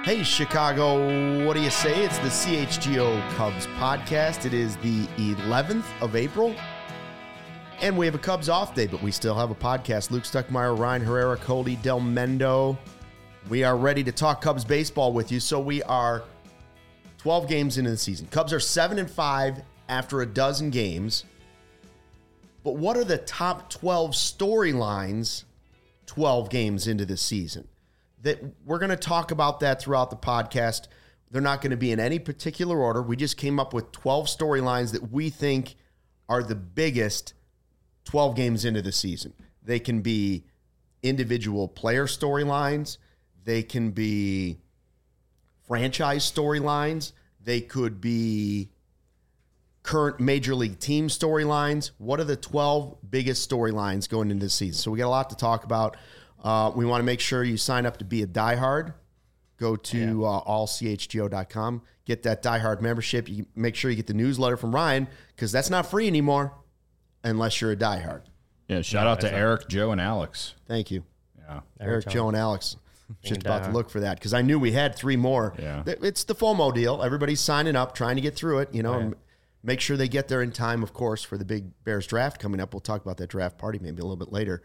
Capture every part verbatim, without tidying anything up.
Hey, Chicago, what do you say? It's the C H G O Cubs podcast. It is the eleventh of April, and we have a Cubs off day, but we still have a podcast. Luke Stuckmeyer, Ryan Herrera, Cody Del Mendo. We are ready to talk Cubs baseball with you. So we are twelve games into the season. Cubs are seven and five after a dozen games. But what are the top twelve storylines twelve games into the season? That we're going to talk about that throughout the podcast. They're not going to be in any particular order. We just came up with twelve storylines that we think are the biggest twelve games into the season. They can be individual player storylines. They can be franchise storylines. They could be current major league team storylines. What are the twelve biggest storylines going into the season? So we got a lot to talk about. Uh, we want to make sure you sign up to be a diehard. Go to yeah. uh, all c h g o dot com. Get that diehard membership. You make sure you get the newsletter from Ryan, because that's not free anymore unless you're a diehard. Yeah, shout no, out to not. Eric, Joe, and Alex. Thank you. Yeah, Eric, Eric Joe, and Alex. Just about to look for that, because I knew we had three more. Yeah. It's the FOMO deal. Everybody's signing up, trying to get through it, you know, Right. and make sure they get there in time, of course, for the big Bears draft coming up. We'll talk about that draft party maybe a little bit later.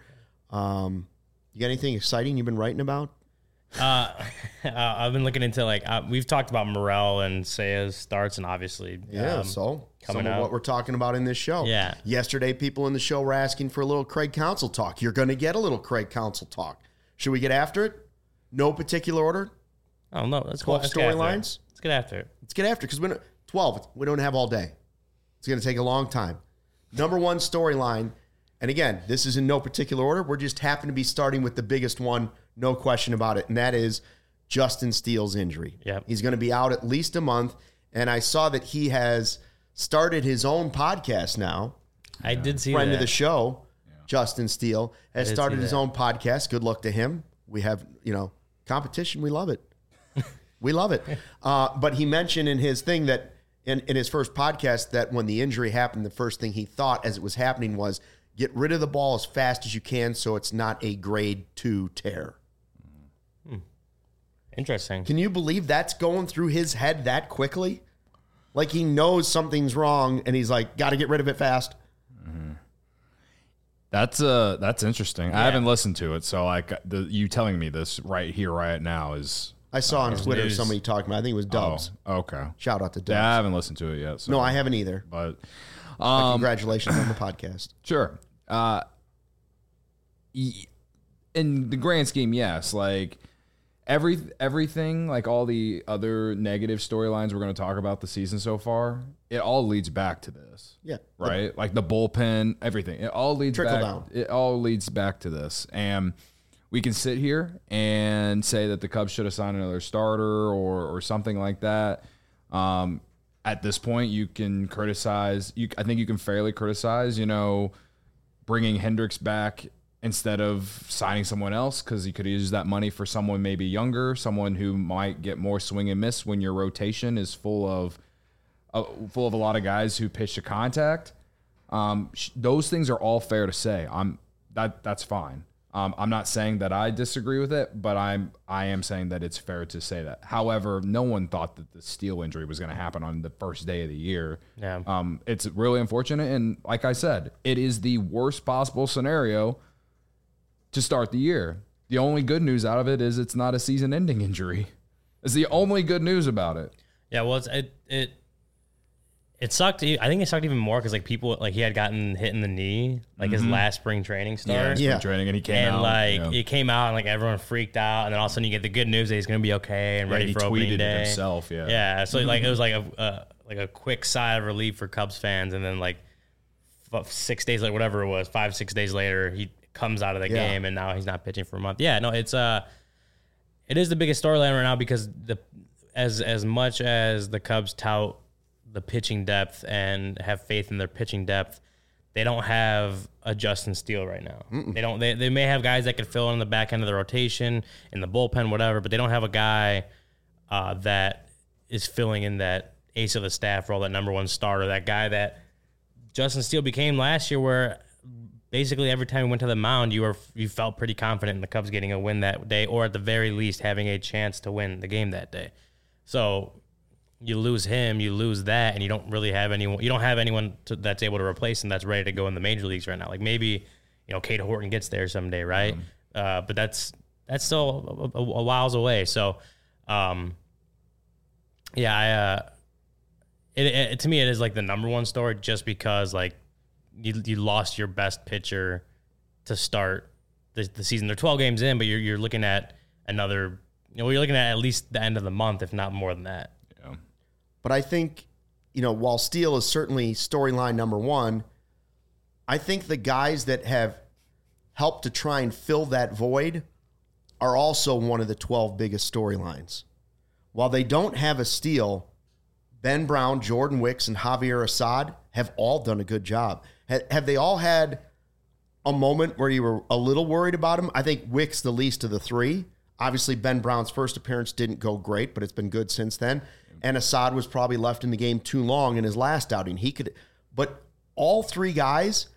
Um, you got anything exciting you've been writing about? Uh, uh, I've been looking into, like, uh, we've talked about Morel and Seiya's starts, and obviously, Yeah, um, so coming some of out. what we're talking about in this show. Yeah. Yesterday, people in the show were asking for a little Craig Counsell talk. You're going to get a little Craig Counsell talk. Should we get after it? No particular order? Oh, no, let's twelve go. Let's get after it. storylines? Let's get after it. Let's get after it, because we don't, twelve, we don't have all day. It's going to take a long time. Number one storyline, and again, this is in no particular order. We're just happen to be starting with the biggest one, no question about it, and that is Justin Steele's injury. Yep. He's going to be out at least a month, and I saw that he has started his own podcast now. I did see Friend that. of the show, Justin Steele, has did started see his that. own podcast. Good luck to him. We have, you know, competition. We love it. We love it. Uh, but he mentioned in his thing that in, in his first podcast that when the injury happened, the first thing he thought as it was happening was get rid of the ball as fast as you can so it's not a grade two tear. Interesting. Can you believe that's going through his head that quickly? Like he knows something's wrong and he's like, got to get rid of it fast. Mm-hmm. That's uh that's interesting. Yeah. I haven't listened to it, so like the you telling me this right here, right now is. I saw on It's Twitter news. somebody talking about, I think it was Dubs. Oh, okay. Shout out to Dubs. Yeah, I haven't listened to it yet. So. No, I haven't either. But But um, congratulations on the podcast. Sure. Uh, y- in the grand scheme, yes. Like every everything, like all the other negative storylines we're going to talk about the season so far, it all leads back to this. Yeah. Right. Like the bullpen, everything. It all leads Trickle back. down. It all leads back to this, and we can sit here and say that the Cubs should have signed another starter or or something like that. Um, at this point, you can criticize. You, I think you can fairly criticize. You know, bringing Hendricks back instead of signing someone else, because you could use that money for someone maybe younger, someone who might get more swing and miss when your rotation is full of uh, full of a lot of guys who pitch to contact. Um, sh- those things are all fair to say. I'm that that's fine. Um, I'm not saying that I disagree with it, but I'm I am saying that it's fair to say that. However, no one thought that the Steele injury was going to happen on the first day of the year. Yeah. Um, it's really unfortunate, and like I said, it is the worst possible scenario to start the year. The only good news out of it is it's not a season-ending injury. It's the only good news about it. Yeah, well, it's, it it it sucked. I think it sucked even more because like people like he had gotten hit in the knee like his last spring training start. Yeah. Spring training, and he came And out. like you know. it came out and like everyone freaked out, and then all of a sudden you get the good news that he's gonna be okay and Yeah, ready he for tweeted opening it day himself, yeah. yeah. So like it was like a uh, like a quick sigh of relief for Cubs fans, and then like f- six days later, whatever it was, five six days later, he comes out of the Yeah. game, and now he's not pitching for a month. Yeah, no, it's uh, it is the biggest storyline right now because the as as much as the Cubs tout the pitching depth and have faith in their pitching depth, they don't have a Justin Steele right now. Mm-mm. They don't. They, they may have guys that could fill in the back end of the rotation, in the bullpen, whatever, but they don't have a guy uh, that is filling in that ace of the staff role, that number one starter, that guy that Justin Steele became last year, where basically every time we went to the mound, you were you felt pretty confident in the Cubs getting a win that day, or at the very least having a chance to win the game that day. So you lose him, you lose that, and you don't really have anyone. You don't have anyone to, that's able to replace him that's ready to go in the major leagues right now. Like maybe you know Cade Horton gets there someday, right? Mm. Uh, but that's that's still a, a, a whiles away. So um, yeah, I. Uh, It, it, to me, it is like the number one story just because like you you lost your best pitcher to start the, the season. They're twelve games in, but you're you're looking at another, you know, you're looking at at least the end of the month, if not more than that. Yeah. But I think, you know, while Steele is certainly storyline number one, I think the guys that have helped to try and fill that void are also one of the twelve biggest storylines. While they don't have a Steele, Ben Brown, Jordan Wicks, and Javier Assad have all done a good job. Have they all had a moment where you were a little worried about him? I think Wicks the least of the three. Obviously, Ben Brown's first appearance didn't go great, but it's been good since then. And Assad was probably left in the game too long in his last outing. He could, but all three guys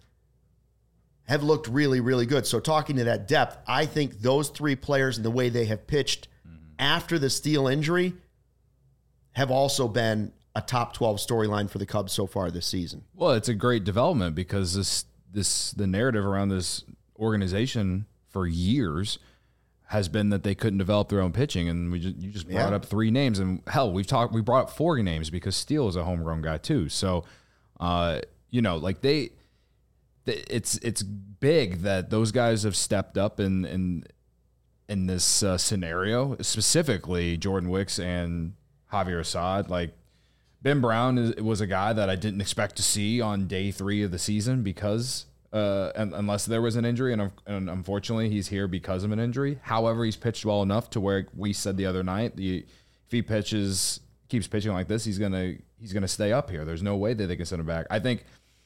have looked really, really good. So talking to that depth, I think those three players and the way they have pitched mm-hmm. after the Steele injury have also been a top twelve storyline for the Cubs so far this season. Well, it's a great development because this this the narrative around this organization for years has been that they couldn't develop their own pitching, and we just, you just brought yeah. up three names, and hell, we've talked we brought up four names because Steele is a homegrown guy too. So, uh, you know, like they, they, it's it's big that those guys have stepped up in in in this uh, scenario, specifically Jordan Wicks and Javier Assad. Like Ben Brown is, was a guy that I didn't expect to see on day three of the season because uh, unless there was an injury, and, and unfortunately he's here because of an injury. However, he's pitched well enough to where we said the other night, the if he pitches keeps pitching like this, he's gonna he's gonna stay up here. There's no way that they can send him back. I think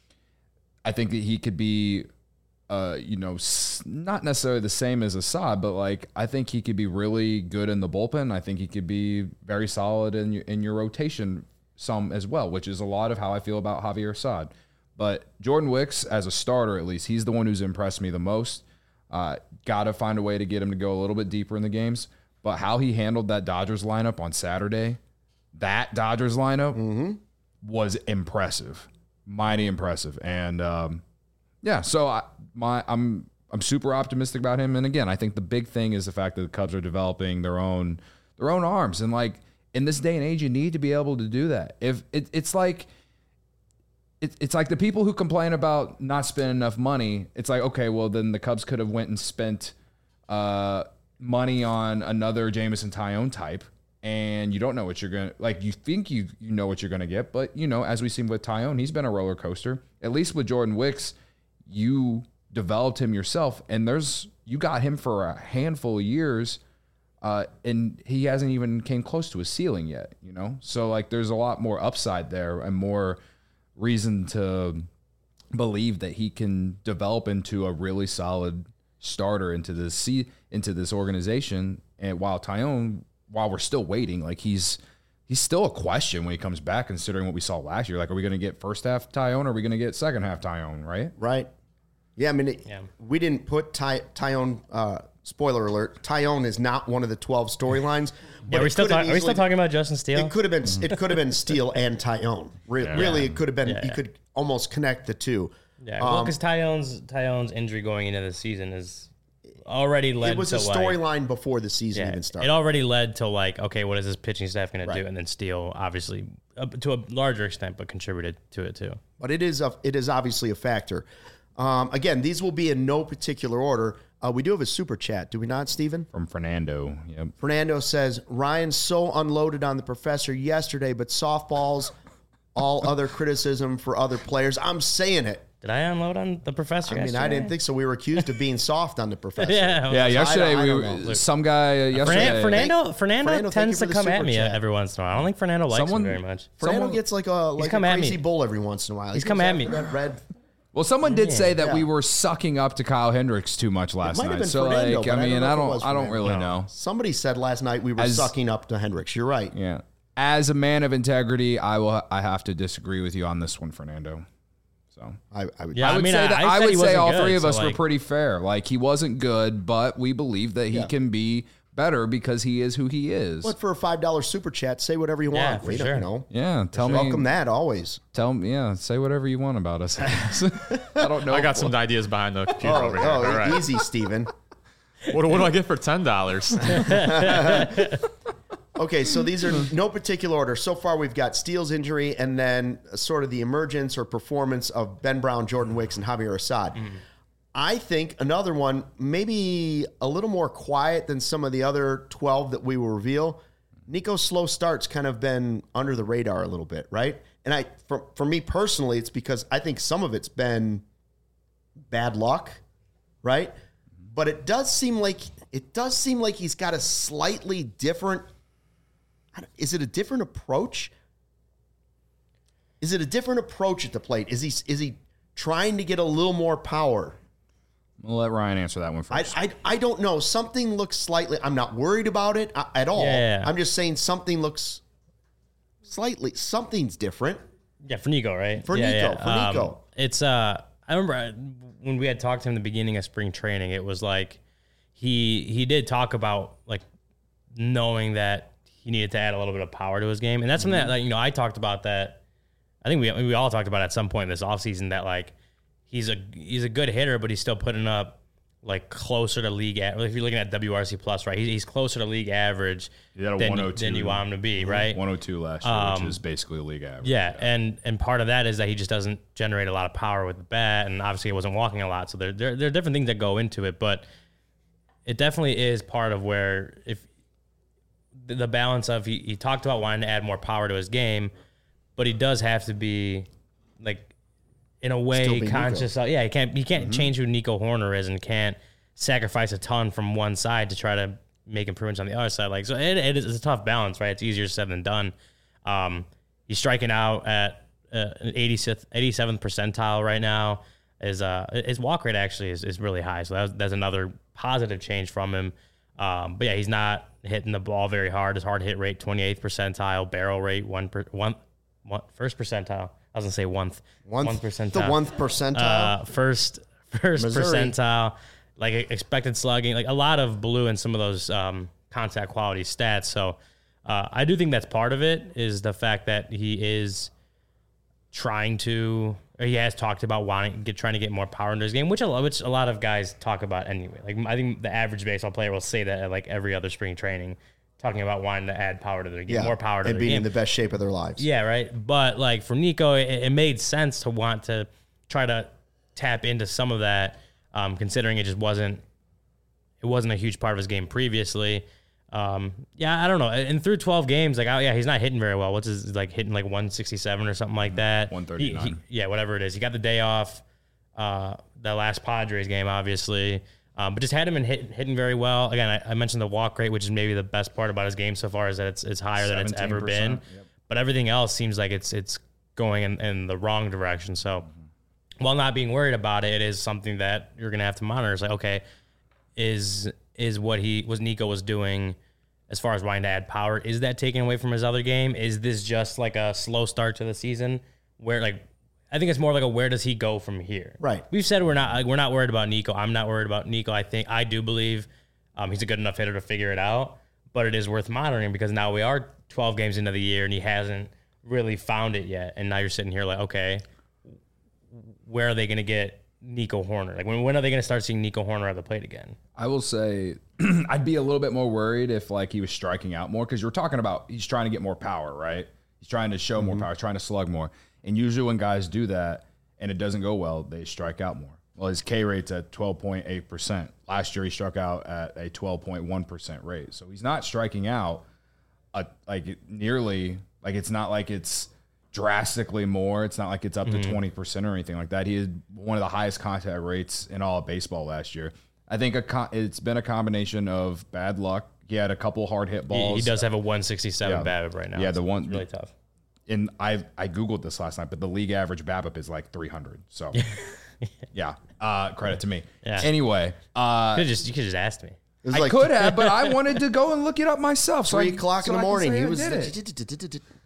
I think that he could be. Uh, you know, not necessarily the same as Assad, but like I think he could be really good in the bullpen. I think he could be very solid in your, in your rotation some as well, which is a lot of how I feel about Javier Assad. But Jordan Wicks, as a starter at least, he's the one who's impressed me the most. Uh, Got to find a way to get him to go a little bit deeper in the games. But how he handled that Dodgers lineup on Saturday, that Dodgers lineup mm-hmm. was impressive, mighty impressive, and um, yeah, so I. My, I'm I'm super optimistic about him, and again, I think the big thing is the fact that the Cubs are developing their own their own arms, and like in this day and age, you need to be able to do that. If it, it's like it, it's like the people who complain about not spending enough money, it's like okay, well then the Cubs could have went and spent uh, money on another Jameson Taillon type, and you don't know what you're gonna like. You think you you know what you're gonna get, but you know, as we seen with Taillon, he's been a roller coaster. At least with Jordan Wicks, you developed him yourself, and there's you got him for a handful of years, uh, and he hasn't even came close to his ceiling yet, you know? So, like, there's a lot more upside there and more reason to believe that he can develop into a really solid starter into this into this organization. And while Taillon, while we're still waiting, like, he's he's still a question when he comes back, considering what we saw last year. Like, are we going to get first half Taillon, or are we going to get second half Taillon, right? Right. Yeah, I mean, it, yeah. we didn't put Ty, Taillon, uh, spoiler alert, Taillon is not one of the twelve storylines. Yeah, are we still, talk, are we still talking about Justin Steele? It could have been It could have been Steele and Taillon. Re- yeah. Really, it could have been, yeah, you yeah. could almost connect the two. Yeah, well, because um, Taillon's, Taillon's injury going into the season is already led to It was a storyline like, before the season yeah, even started. It already led to like, okay, what is this pitching staff going right. to do? And then Steele, obviously, uh, to a larger extent, but contributed to it too. But it is a, it is obviously a factor. Um, again, these will be in no particular order. Uh, we do have a super chat, do we not, Stephen? From Fernando. Yep. Fernando says, Ryan's so unloaded on the professor yesterday, but softballs, all other criticism for other players. I'm saying it. Did I unload on the professor I mean, yesterday? I didn't think so. We were accused of being soft on the professor. yeah. Yeah, yesterday, I, I we know. were, some guy uh, yesterday. Fernando, Fernando, Fernando tends to come at me chat. every once in a while. I don't think Fernando likes Someone, me very much. Fernando Someone, gets like a, like a crazy bull every once in a while. He's he come at me. That red. Well, someone did say that yeah. we were sucking up to Kyle Hendricks too much last might have night. been So, Fernando, like, but I I mean, don't know I if it don't, was I don't Fernando. really know. Somebody said last night we were As, sucking up to Hendricks. You're right. Yeah. As a man of integrity, I will. I have to disagree with you on this one, Fernando. So I, I would, Yeah, I would I mean, say I- that I I, said would he say wasn't all good, three of so, us were like- pretty fair. Like he wasn't good, but we believe that he Yeah. can be better because he is who he is. but for a five dollar super chat, say whatever you Yeah, want. for We don't, sure. you know, Yeah, tell me. welcome that always. Tell me, yeah, say whatever you want about us. I guess. I don't know. I got some ideas behind the computer Oh, over here. oh All right. easy, Steven. What, what do I get for ten dollars? Okay, so these are no particular order. So far, we've got Steele's injury and then sort of the emergence or performance of Ben Brown, Jordan Wicks, and Javier Assad. Mm-hmm. I think another one, maybe a little more quiet than some of the other twelve that we will reveal. Nico's slow starts kind of been under the radar a little bit, right? And I, for, for me personally, it's because I think some of it's been bad luck, right? But it does seem like it does seem like he's got a slightly different. Is it a different approach? Is it a different approach at the plate? Is he is he trying to get a little more power? We'll let Ryan answer that one I, first. I, I don't know. Something looks slightly. I'm not worried about it uh, at all. Yeah. I'm just saying something looks slightly. Something's different. Yeah, for Nico, right? For yeah, Nico, yeah. for Um, Nico. It's uh, I remember I- when we had talked to him in the beginning of spring training. It was like he he did talk about like knowing that he needed to add a little bit of power to his game, and that's something that like, you know I talked about that. I think we we all talked about at some point this offseason that like he's a he's a good hitter, but he's still putting up like closer to league. A- if you're looking at W R C plus, right? He's, he's closer to league average He had a than, one you- oh two. than you want him to be, right? one oh two last year, Um, which is basically league average. Yeah, and and part of that is that he just doesn't generate a lot of power with the bat, and obviously he wasn't walking a lot. So there, there, there are different things that go into it, but it definitely is part of where if the, the balance of he, he talked about wanting to add more power to his game, but he does have to be like in a Still way be conscious of, yeah, he can't he can't change who Nico Horner is and can't sacrifice a ton from one side to try to make improvements on the other side. Like so it, it is it's a tough balance, right? It's easier said than done. Um, he's striking out at uh, an eighty-seventh, eighty-seventh percentile right now. His uh his walk rate actually is, is really high, so that's, that's another positive change from him. Um, but yeah, he's not hitting the ball very hard. His hard hit rate twenty-eighth percentile, barrel rate one per, one, one first percentile. I was gonna say one One one percentile. The one percentile. Uh, first first Missouri. percentile, like expected slugging, like a lot of blue in some of those um, contact quality stats. So uh, I do think that's part of it is the fact that he is trying to, or he has talked about wanting get trying to get more power into his game, which a lot, which a lot of guys talk about anyway. Like I think the average baseball player will say that at like every other spring training, talking about wanting to add power to their game, yeah, more power to and their being game. in the best shape of their lives. Yeah, right. But like for Nico, it, it made sense to want to try to tap into some of that, um, considering it just wasn't it wasn't a huge part of his game previously. Um, yeah, I don't know. And through twelve games, like, oh yeah, he's not hitting very well. What's his like hitting like one sixty-seven or something like that? one He- thirty-nine. he- yeah, whatever it is. He got the day off. Uh, the last Padres game, obviously. Um, but just had him in hit, hitting very well. Again, I, I mentioned the walk rate, which is maybe the best part about his game so far, is that it's, it's higher than it's ever been. Yep. But everything else seems like it's it's going in, in the wrong direction. So while not being worried about it, it is something that you're going to have to monitor. It's like, okay, is is what he was Nico was doing as far as wanting to add power, is that taken away from his other game? Is this just like a slow start to the season where like I think it's more like a where does he go from here? Right. We've said we're not like, we're not worried about Nico. I'm not worried about Nico. I think I do believe um, he's a good enough hitter to figure it out, but it is worth monitoring because now we are twelve games into the year and he hasn't really found it yet. And now you're sitting here like, okay, where are they going to get Nico Horner? Like when, when are they going to start seeing Nico Horner at the plate again? I will say I'd be a little bit more worried if like he was striking out more because you're talking about he's trying to get more power, right? He's trying to show more power, trying to slug more. And usually when guys do that and it doesn't go well, they strike out more. Well, his K rate's at twelve point eight percent. Last year he struck out at a twelve point one percent rate. So he's not striking out a, like nearly, like it's not like it's drastically more. It's not like it's up to twenty percent or anything like that. He had one of the highest contact rates in all of baseball last year. I think a co- it's been a combination of bad luck. He had a couple hard hit He, balls. he does have a one sixty-seven Yeah. BABIP right now. Yeah, It's- the one- it's really tough. And I I Googled this last night, but the league average BABIP is like three hundred. So, yeah, uh, credit to me. Yeah. Anyway, uh, You could just you could just asked me. It was I like could have, but I wanted to go and look it up myself. So three I- o'clock so in the I can morning. say He I was. did it.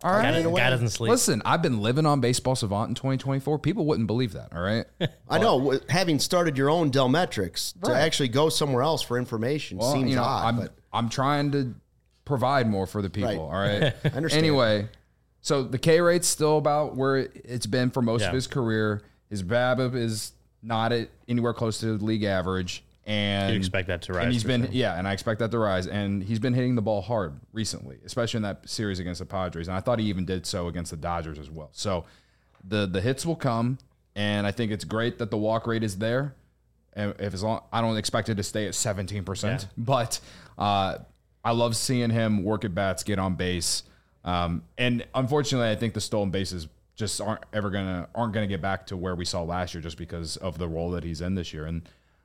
All right. Guy, doesn't- guy doesn't sleep. Listen, I've been living on Baseball Savant in twenty twenty-four. People wouldn't believe that, all right? I know. w- Having started your own Delmetrics, to Right. actually go somewhere else for information Well, seems you know, odd. I'm, but I'm trying to provide more for the people, Right. all right? I understand. Anyway, so the K rate's still about where it's been for most Yeah. of his career. His BABIP is not at anywhere close to the league average. And You'd expect that to rise And he's for been, sure. yeah, and I expect that to rise. And he's been hitting the ball hard recently, especially in that series against the Padres. And I thought he even did so against the Dodgers as well. So the the hits will come, and I think it's great that the walk rate is there. And if as long, I don't expect it to stay at seventeen percent, Yeah. but uh, I love seeing him work at bats, get on base. Um, and unfortunately, I think the stolen bases just aren't ever gonna aren't gonna get back to where we saw last year, just because of the role that he's in this year. And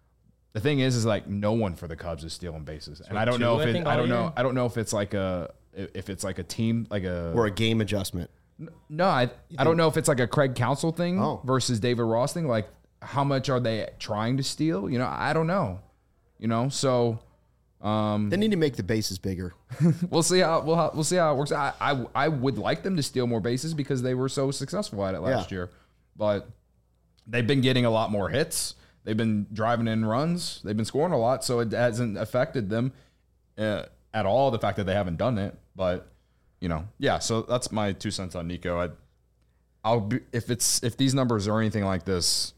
the thing is, is like no one for the Cubs is stealing bases, and I don't two, know I if it, think, I all don't know, year? I don't know if it's like a if it's like a team like a or a game adjustment. no, I I don't know if it's like a Craig Counsell thing Oh. versus David Ross thing. Like, how much are they trying to steal? You know, I don't know. You know, so They need to make the bases bigger. we'll see how we'll we'll see how it works. I, I I would like them to steal more bases because they were so successful at it last Yeah. year, but they've been getting a lot more hits. They've been driving in runs. They've been scoring a lot, so it hasn't affected them uh, at all. The fact that they haven't done it, but you know, yeah. So that's my two cents on Nico. I, I'll be, if it's if these numbers are anything like this,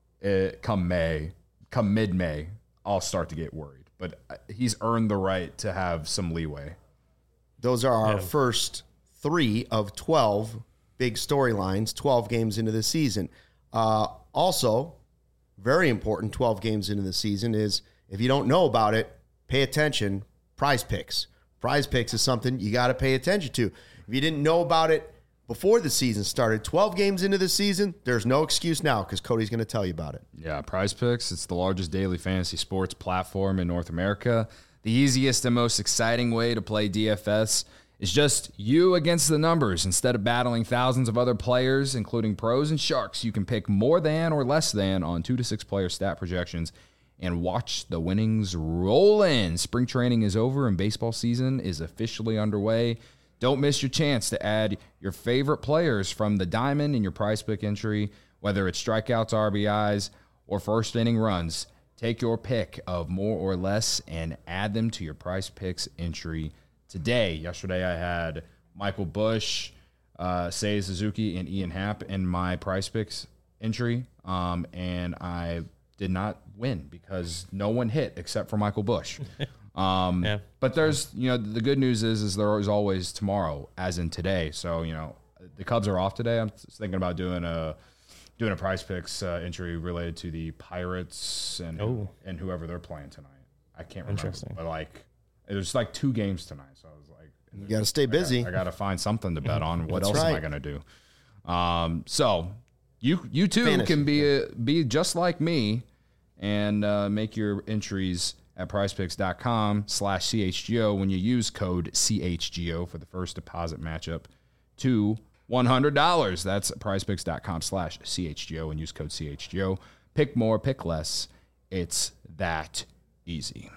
it, come May, come mid May, I'll start to get worried. But he's earned the right to have some leeway. Those are our Yeah. first three of twelve big storylines, twelve games into the season. Uh, also, very important, twelve games into the season is, if you don't know about it, pay attention, Prize Picks. Prize Picks is something you got to pay attention to. If you didn't know about it before the season started, twelve games into the season, there's no excuse now because Cody's going to tell you about it. Yeah, Prize Picks. It's the largest daily fantasy sports platform in North America. The easiest and most exciting way to play D F S is just you against the numbers. Instead of battling thousands of other players, including pros and sharks, you can pick more than or less than on two to six player stat projections and watch the winnings roll in. Spring training is over and baseball season is officially underway. Don't miss your chance to add your favorite players from the diamond in your Prize Pick entry, whether it's strikeouts, R B Is, or first inning runs. Take your pick of more or less and add them to your Prize Picks entry today. Yesterday I had Michael Bush, uh, Seiya Suzuki, and Ian Happ in my Prize Picks entry, um, and I did not win because no one hit except for Michael Bush. Um, Yeah. But there's, you know, the good news is, is there is always tomorrow, as in today. So, you know, the Cubs are off today. I'm thinking about doing a doing a Prize Picks uh, entry related to the Pirates and Oh. and whoever they're playing tonight. I can't remember, Interesting. but like there's like two games tonight, so I was like, You got to stay busy. I got to find something to bet on. What That's else am I right. going to do? Um, so you you too Fantasy, can be a, be just like me and uh, make your entries at prizepicks.com slash CHGO when you use code C H G O for the first deposit matchup to one hundred dollars. That's prizepicks.com slash CHGO and use code C H G O. Pick more, pick less. It's that easy.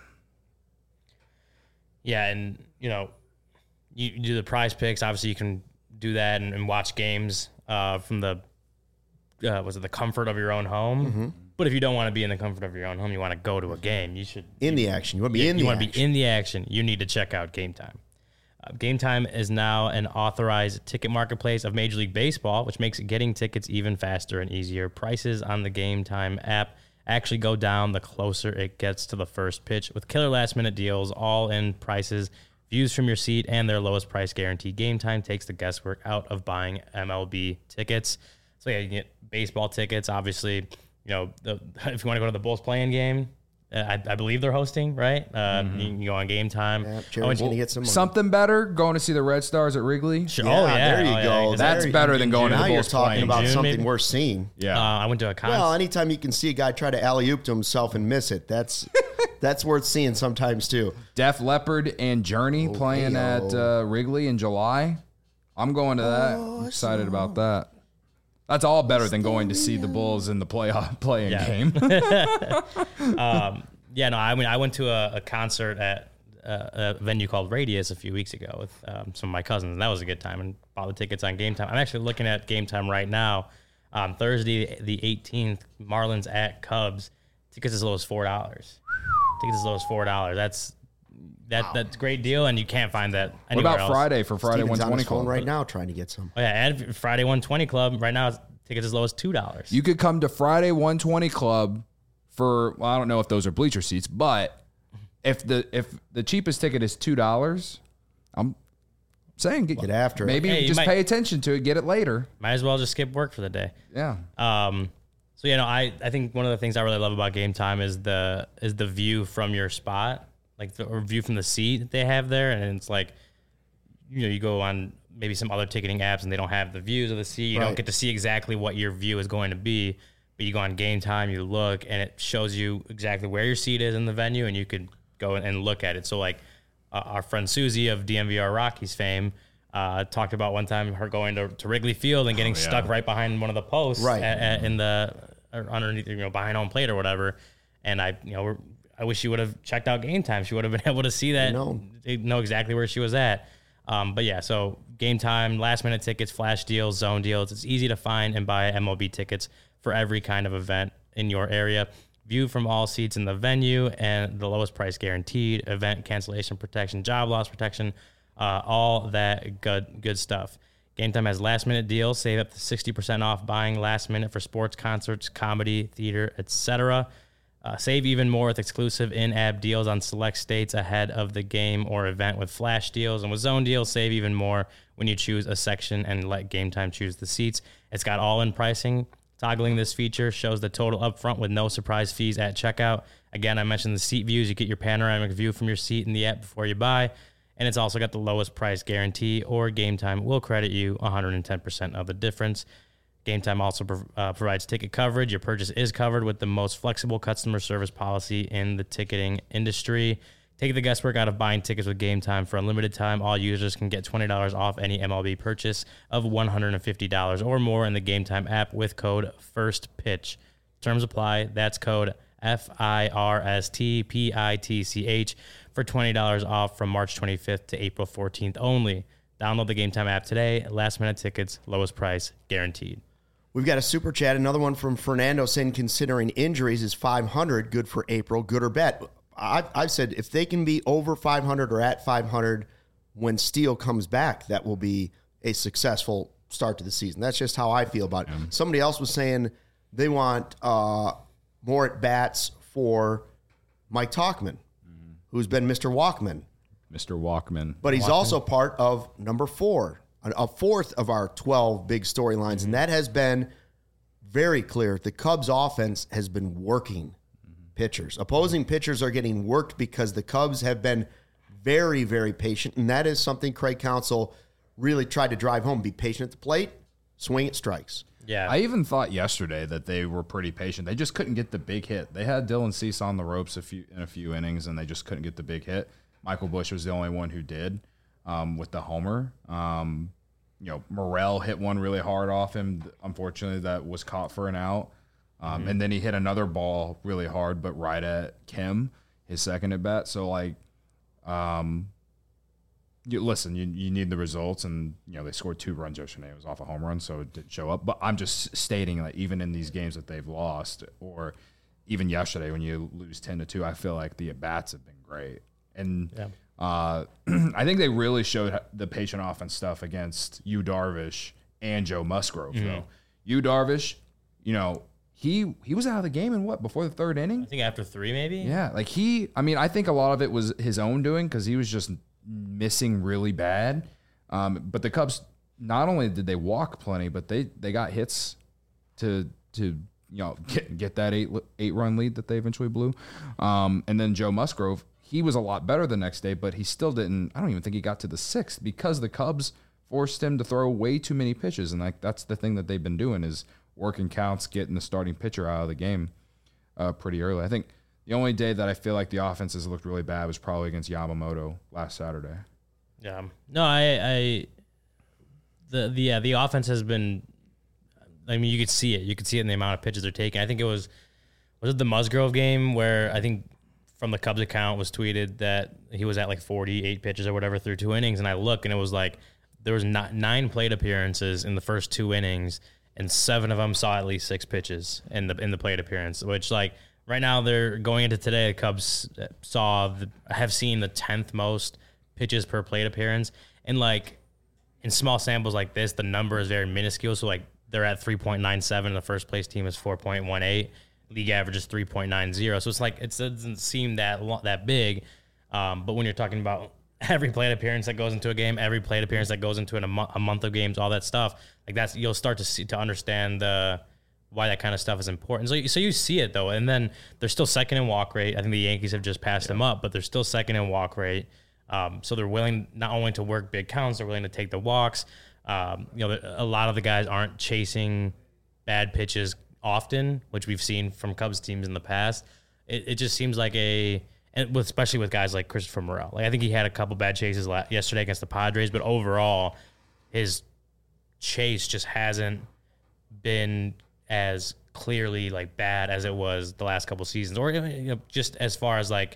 Yeah, and you know, you, you do the Prize Picks. Obviously, you can do that and, and watch games uh, from the uh, was it the comfort of your own home. Mm-hmm. But if you don't want to be in the comfort of your own home, you want to go to a game. You should In the action. You want to be in you the want to action. be in the action. You need to check out Game Time. Uh, Game Time is now an authorized ticket marketplace of Major League Baseball, which makes getting tickets even faster and easier. Prices on the Game Time app actually go down the closer it gets to the first pitch, with killer last minute deals, all in prices, views from your seat, and their lowest price guarantee. Game Time takes the guesswork out of buying M L B tickets. So yeah, you can get baseball tickets. Obviously, you know, the, if you want to go to the Bulls playing game, uh, I, I believe they're hosting, right? Uh, you can go on Game Time. Yeah, Oh, Jared's and- going to get some money. Something better, going to see the Red Stars at Wrigley. Sure. Yeah, oh yeah, there you Oh, yeah. go. Is That's that- better in than going to June? the Now you're Bulls talking playing. about June, something maybe? worth seeing. Yeah. Uh, I went to a concert. Well, anytime you can see a guy try to alley-oop to himself and miss it, that's that's worth seeing sometimes too. Def Leppard and Journey playing hey-o. at uh, Wrigley in July. I'm going to that. I'm excited about that. That's all better than going to see the Bulls in the playoff playing Yeah. game. um, yeah, no, I mean, I went to a, a concert at uh, a venue called Radius a few weeks ago with um, some of my cousins, and that was a good time. And bought the tickets on Game Time. I'm actually looking at Game Time right now. Um, Thursday the eighteenth, Marlins at Cubs. Tickets as low as four dollars. Tickets as low as four dollars. That's that wow. that's a great deal, and you can't find that anywhere What about else. Friday for Friday Steven's one twenty on his phone Club? right now trying to get some. Oh yeah, and Friday one twenty Club right now. Tickets as low as two dollars. You could come to Friday one twenty Club for, well, I don't know if those are bleacher seats, but if the if the cheapest ticket is two dollars, I'm saying get, Get after it. maybe Hey, you just might- pay attention to it, get it later. Might as well just skip work for the day. Yeah. Um, so you know, I, I think one of the things I really love about Game Time is the is the view from your spot, like the or view from the seat that they have there, and it's like, you know, you go on maybe some other ticketing apps and they don't have the views of the seat. You Right. don't get to see exactly what your view is going to be, but you go on Game Time, you look, and it shows you exactly where your seat is in the venue, and you could go and look at it. So like uh, our friend Susie of D M V R Rockies fame. Uh, talked about one time her going to, to Wrigley Field and getting Oh, yeah. stuck right behind one of the posts, Right. at, at, in the or underneath, you know, behind home plate or whatever. And I, you know, we're, I wish she would have checked out Game Time. She would have been able to see that, know. know exactly where she was at. Um, but yeah, so Game Time, last minute tickets, flash deals, zone deals. It's easy to find and buy M L B tickets for every kind of event in your area. View from all seats in the venue and the lowest price guaranteed, event cancellation protection, job loss protection, uh, all that good good stuff. Game Time has last minute deals. Save up to sixty percent off buying last minute for sports, concerts, comedy, theater, et cetera. Uh, save even more with exclusive in-app deals on select states ahead of the game or event with flash deals. And with zone deals, save even more when you choose a section and let Game Time choose the seats. It's got all-in pricing. Toggling this feature shows the total upfront with no surprise fees at checkout. Again, I mentioned the seat views. You get your panoramic view from your seat in the app before you buy. And it's also got the lowest price guarantee, or Game Time will credit you one hundred ten percent of the difference. Game Time also prov- uh, provides ticket coverage. Your purchase is covered with the most flexible customer service policy in the ticketing industry. Take the guesswork out of buying tickets with Game Time. For unlimited time, all users can get twenty dollars off any M L B purchase of one hundred fifty dollars or more in the Game Time app with code FIRSTPITCH. Terms apply. That's code F I R S T P I T C H for twenty dollars off from March twenty-fifth to April fourteenth only. Download the Game Time app today. Last minute tickets, lowest price guaranteed. We've got a super chat, another one from Fernando saying considering injuries is five hundred, good for April, good or bad. I've, I've said if they can be over five hundred or at five hundred when Steele comes back, that will be a successful start to the season. That's just how I feel about it. Mm. Somebody else was saying they want uh, more at-bats for Mike Tauchman, mm. who's been Mister Walkman. Mister Walkman. But he's Walkman. also part of number four, a fourth of our twelve big storylines, mm-hmm. and that has been very clear. The Cubs offense has been working mm-hmm. pitchers. Opposing pitchers are getting worked because the Cubs have been very, very patient, and that is something Craig Counsell really tried to drive home. Be patient at the plate, swing at strikes. Yeah. I even thought yesterday that they were pretty patient. They just couldn't get the big hit. They had Dylan Cease on the ropes a few in a few innings, and they just couldn't get the big hit. Michael Busch was the only one who did. Um, with the homer, um, you know, Morel hit one really hard off him. Unfortunately, that was caught for an out. Um, mm-hmm. And then he hit another ball really hard, but right at Kim, his second at bat. So, like, um, you, listen, you you need the results, and you know they scored two runs yesterday. It was off a home run, so it didn't show up. But I'm just stating that even in these games that they've lost, or even yesterday when you lose ten to two, I feel like the at bats have been great. And yeah. Uh, I think they really showed the patient offense stuff against Yu Darvish and Joe Musgrove, mm-hmm. though. Yu Darvish, you know, he he was out of the game in what, before the third inning? I think after three, maybe? Yeah, like he, I mean, I think a lot of it was his own doing because he was just missing really bad. Um, but the Cubs, not only did they walk plenty, but they, they got hits to, to you know, get, get that eight, eight run lead that they eventually blew. Um, and then Joe Musgrove, he was a lot better the next day, but he still didn't. I don't even think he got to the sixth because the Cubs forced him to throw way too many pitches, and like that's the thing that they've been doing is working counts, getting the starting pitcher out of the game uh, pretty early. I think the only day that I feel like the offense has looked really bad was probably against Yamamoto last Saturday. Yeah, no, I, I the the yeah the offense has been. I mean, you could see it. You could see it in the amount of pitches they're taking. I think it was was it the Musgrove game where I think. from the Cubs account was tweeted that he was at like forty-eight pitches or whatever through two innings. And I look and it was like there was not nine plate appearances in the first two innings, and seven of them saw at least six pitches in the in the plate appearance, which like right now they're going into today. The Cubs saw the, have seen the tenth most pitches per plate appearance, and like in small samples like this, the number is very minuscule. So like they're at three point nine seven. The first place team is four point one eight. League average is three point nine zero. So it's like it doesn't seem that that big. Um, but when you're talking about every plate appearance that goes into a game, every plate appearance that goes into an, a, mo- a month of games, all that stuff, like that's you'll start to see to understand the why that kind of stuff is important. So you, so you see it though, and then they're still second in walk rate. I think the Yankees have just passed yeah. them up, but they're still second in walk rate. Um, so they're willing not only to work big counts, they're willing to take the walks. Um, you know, a lot of the guys aren't chasing bad pitches often, which we've seen from Cubs teams in the past. It, it just seems like a, and with, especially with guys like Christopher Morel. Like I think he had a couple bad chases la- yesterday against the Padres, but overall, his chase just hasn't been as clearly like bad as it was the last couple seasons, or you know, just as far as like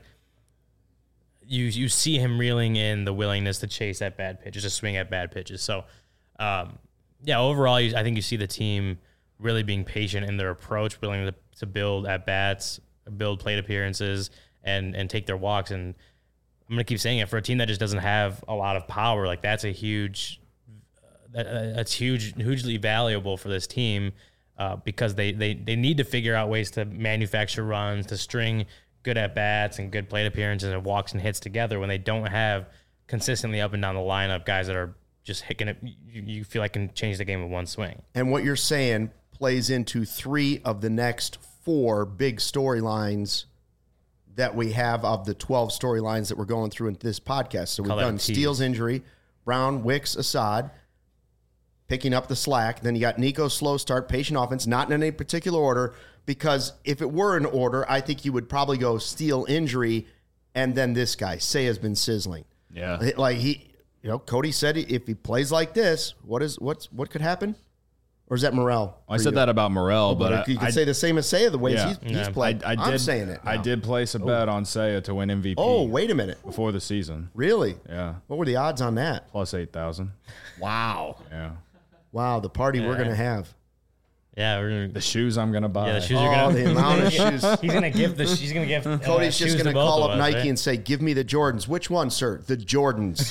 you you see him reeling in the willingness to chase at bad pitches, to swing at bad pitches. So, um, yeah, overall, you, I think you see the team really being patient in their approach, willing to, to build at bats, build plate appearances, and and take their walks. And I'm gonna keep saying it, for a team that just doesn't have a lot of power, like that's a huge, uh, that's huge, hugely valuable for this team uh, because they they they need to figure out ways to manufacture runs, to string good at bats and good plate appearances and walks and hits together when they don't have consistently up and down the lineup guys that are just hitting it. You, you feel like can change the game with one swing. And what you're saying plays into three of the next four big storylines that we have of the twelve storylines that we're going through in this podcast. So we've Call done Steele's injury, Brown, Wicks, Assad, picking up the slack. Then you got Nico's slow start, patient offense, not in any particular order, because if it were in order, I think you would probably go Steele injury and then this guy. Say has been sizzling. Yeah. Like he, you know, Cody said if he plays like this, what is what's what could happen? Or is that Morel? I said you? that about Morel, oh, but, but you I, could I, say the same as Seiya, the way yeah. he's, he's Yeah. played. I, I I'm did, saying it now. I did place a bet on Seiya to win M V P. Oh, wait a minute. Before the season. Really? Yeah. What were the odds on that? Plus eight thousand. Wow. Yeah. Wow, the party Yeah. we're going to have. Yeah, we're gonna, The shoes I'm going to buy. yeah, the shoes Oh, are gonna. the amount of shoes. He's gonna give the. He's gonna give. Uh, Cody's just shoes going to both call of up us, Nike right? and say, give me the Jordans. Which one, sir? The Jordans.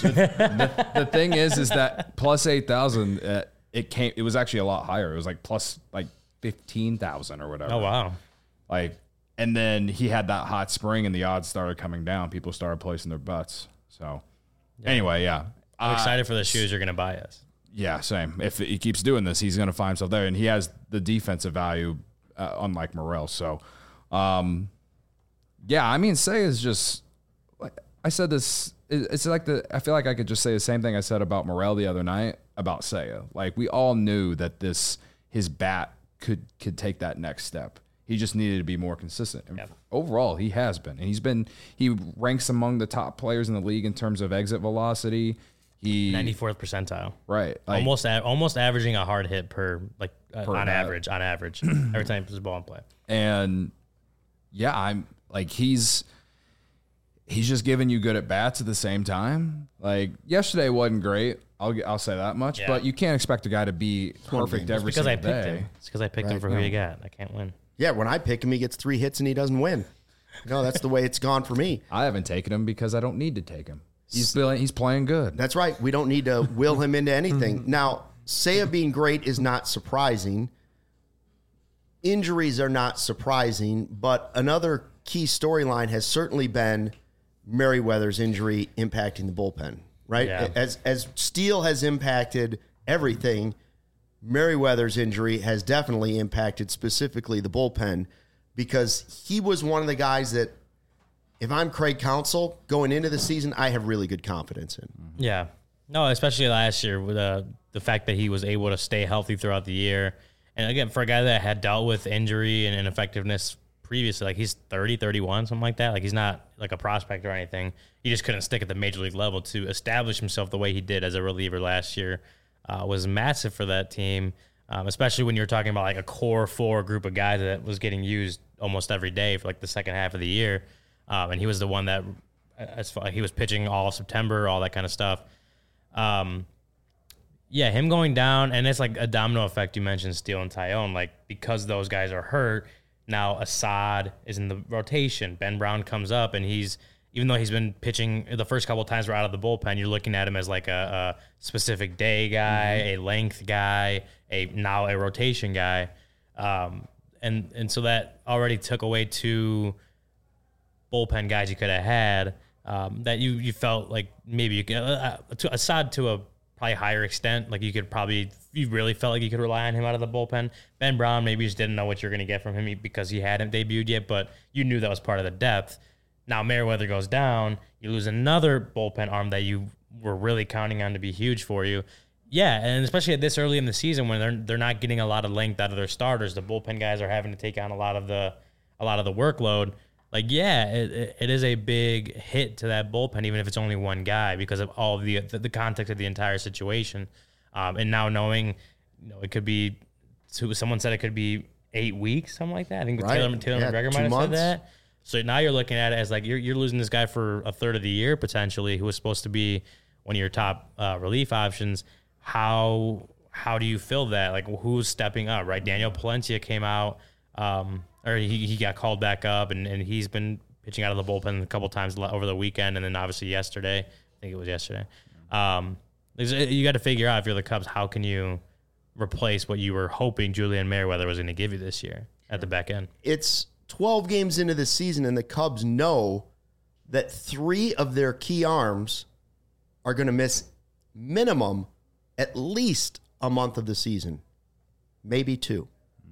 The thing is, is that plus eight thousand, uh, it came, it was actually a lot higher. It was like plus like fifteen thousand or whatever. Oh wow. Like, and then he had that hot spring and the odds started coming down. People started placing their bets. So anyway, yeah. I'm Uh, excited for the shoes you're gonna buy us. Yeah, same. If he keeps doing this, he's going to find himself there. And he has the defensive value, uh, unlike Morel. So, um, yeah, I mean, Seiya is just, like I said this, it- it's like the, I feel like I could just say the same thing I said about Morel the other night about Seiya. Like, we all knew that this, his bat could, could take that next step. He just needed to be more consistent. And Yep. overall, he has been. And he's been, he ranks among the top players in the league in terms of exit velocity. He, ninety-fourth percentile. right. Like, almost a, almost averaging a hard hit per like uh, Per on bat. average on average every time he puts the ball in play. And yeah, I'm like, he's, he's just giving you good at bats at the same time. Like yesterday wasn't great. I'll I'll say that much, Yeah. but you can't expect a guy to be perfect every Because I single picked day. him. It's because I picked him Right, for no. who you got. I can't win. Yeah, when I pick him, he gets three hits and he doesn't win. No, that's the way it's gone for me. I haven't taken him because I don't need to take him. He's playing, he's playing good. That's right. We don't need to will him into anything. Now, Seiya being great is not surprising. Injuries are not surprising, but another key storyline has certainly been Merriweather's injury impacting the bullpen, right? Yeah. As as Steele has impacted everything, Merriweather's injury has definitely impacted specifically the bullpen because he was one of the guys that, if I'm Craig Counsell going into the season, I have really good confidence in. Yeah. No, especially last year with uh, the fact that he was able to stay healthy throughout the year. And again, for a guy that had dealt with injury and ineffectiveness previously, like he's thirty, thirty-one, something like that. Like he's not like a prospect or anything. He just couldn't stick at the major league level to establish himself the way he did as a reliever last year. Uh, was massive for that team, um, especially when you're talking about like a core four group of guys that was getting used almost every day for like the second half of the year. Um, and he was the one that, as far, he was pitching all of September, all that kind of stuff. Um, yeah, him going down, and it's like a domino effect. You mentioned Steele and Tyone, like because those guys are hurt. Now Assad is in the rotation. Ben Brown comes up, and he's even though he's been pitching the first couple of times we're out of the bullpen, you're looking at him as like a, a specific day guy, mm-hmm. a length guy, a now a rotation guy, um, and and so that already took away two bullpen guys you could have had um, that you you felt like maybe you could uh, to Assad to a probably higher extent, like you could probably, you really felt like you could rely on him out of the bullpen. Ben Brown, maybe you just didn't know what you're going to get from him because he hadn't debuted yet, but you knew that was part of the depth. Now Merriweather goes down, you lose another bullpen arm that you were really counting on to be huge for you. Yeah, and especially at this early in the season when they're they're not getting a lot of length out of their starters, the bullpen guys are having to take on a lot of the a lot of the workload. Like, yeah, it, it is a big hit to that bullpen, even if it's only one guy, because of all of the the, the context of the entire situation. Um, and now knowing, you know, it could be, someone said it could be eight weeks, something like that. I think right. Taylor, Taylor yeah, McGregor might have months. said that. So now you're looking at it as like you're you're losing this guy for a third of the year potentially, who was supposed to be one of your top uh, relief options. How how do you fill that? Like, who's stepping up? Right, Daniel Palencia came out. Um, or he, he got called back up, and, and he's been pitching out of the bullpen a couple times over the weekend, and then obviously yesterday. I think it was yesterday. Um, you got to figure out, if you're the Cubs, how can you replace what you were hoping Julian Merriweather was going to give you this year at the back end? It's twelve games into the season, and the Cubs know that three of their key arms are going to miss minimum at least a month of the season, maybe two.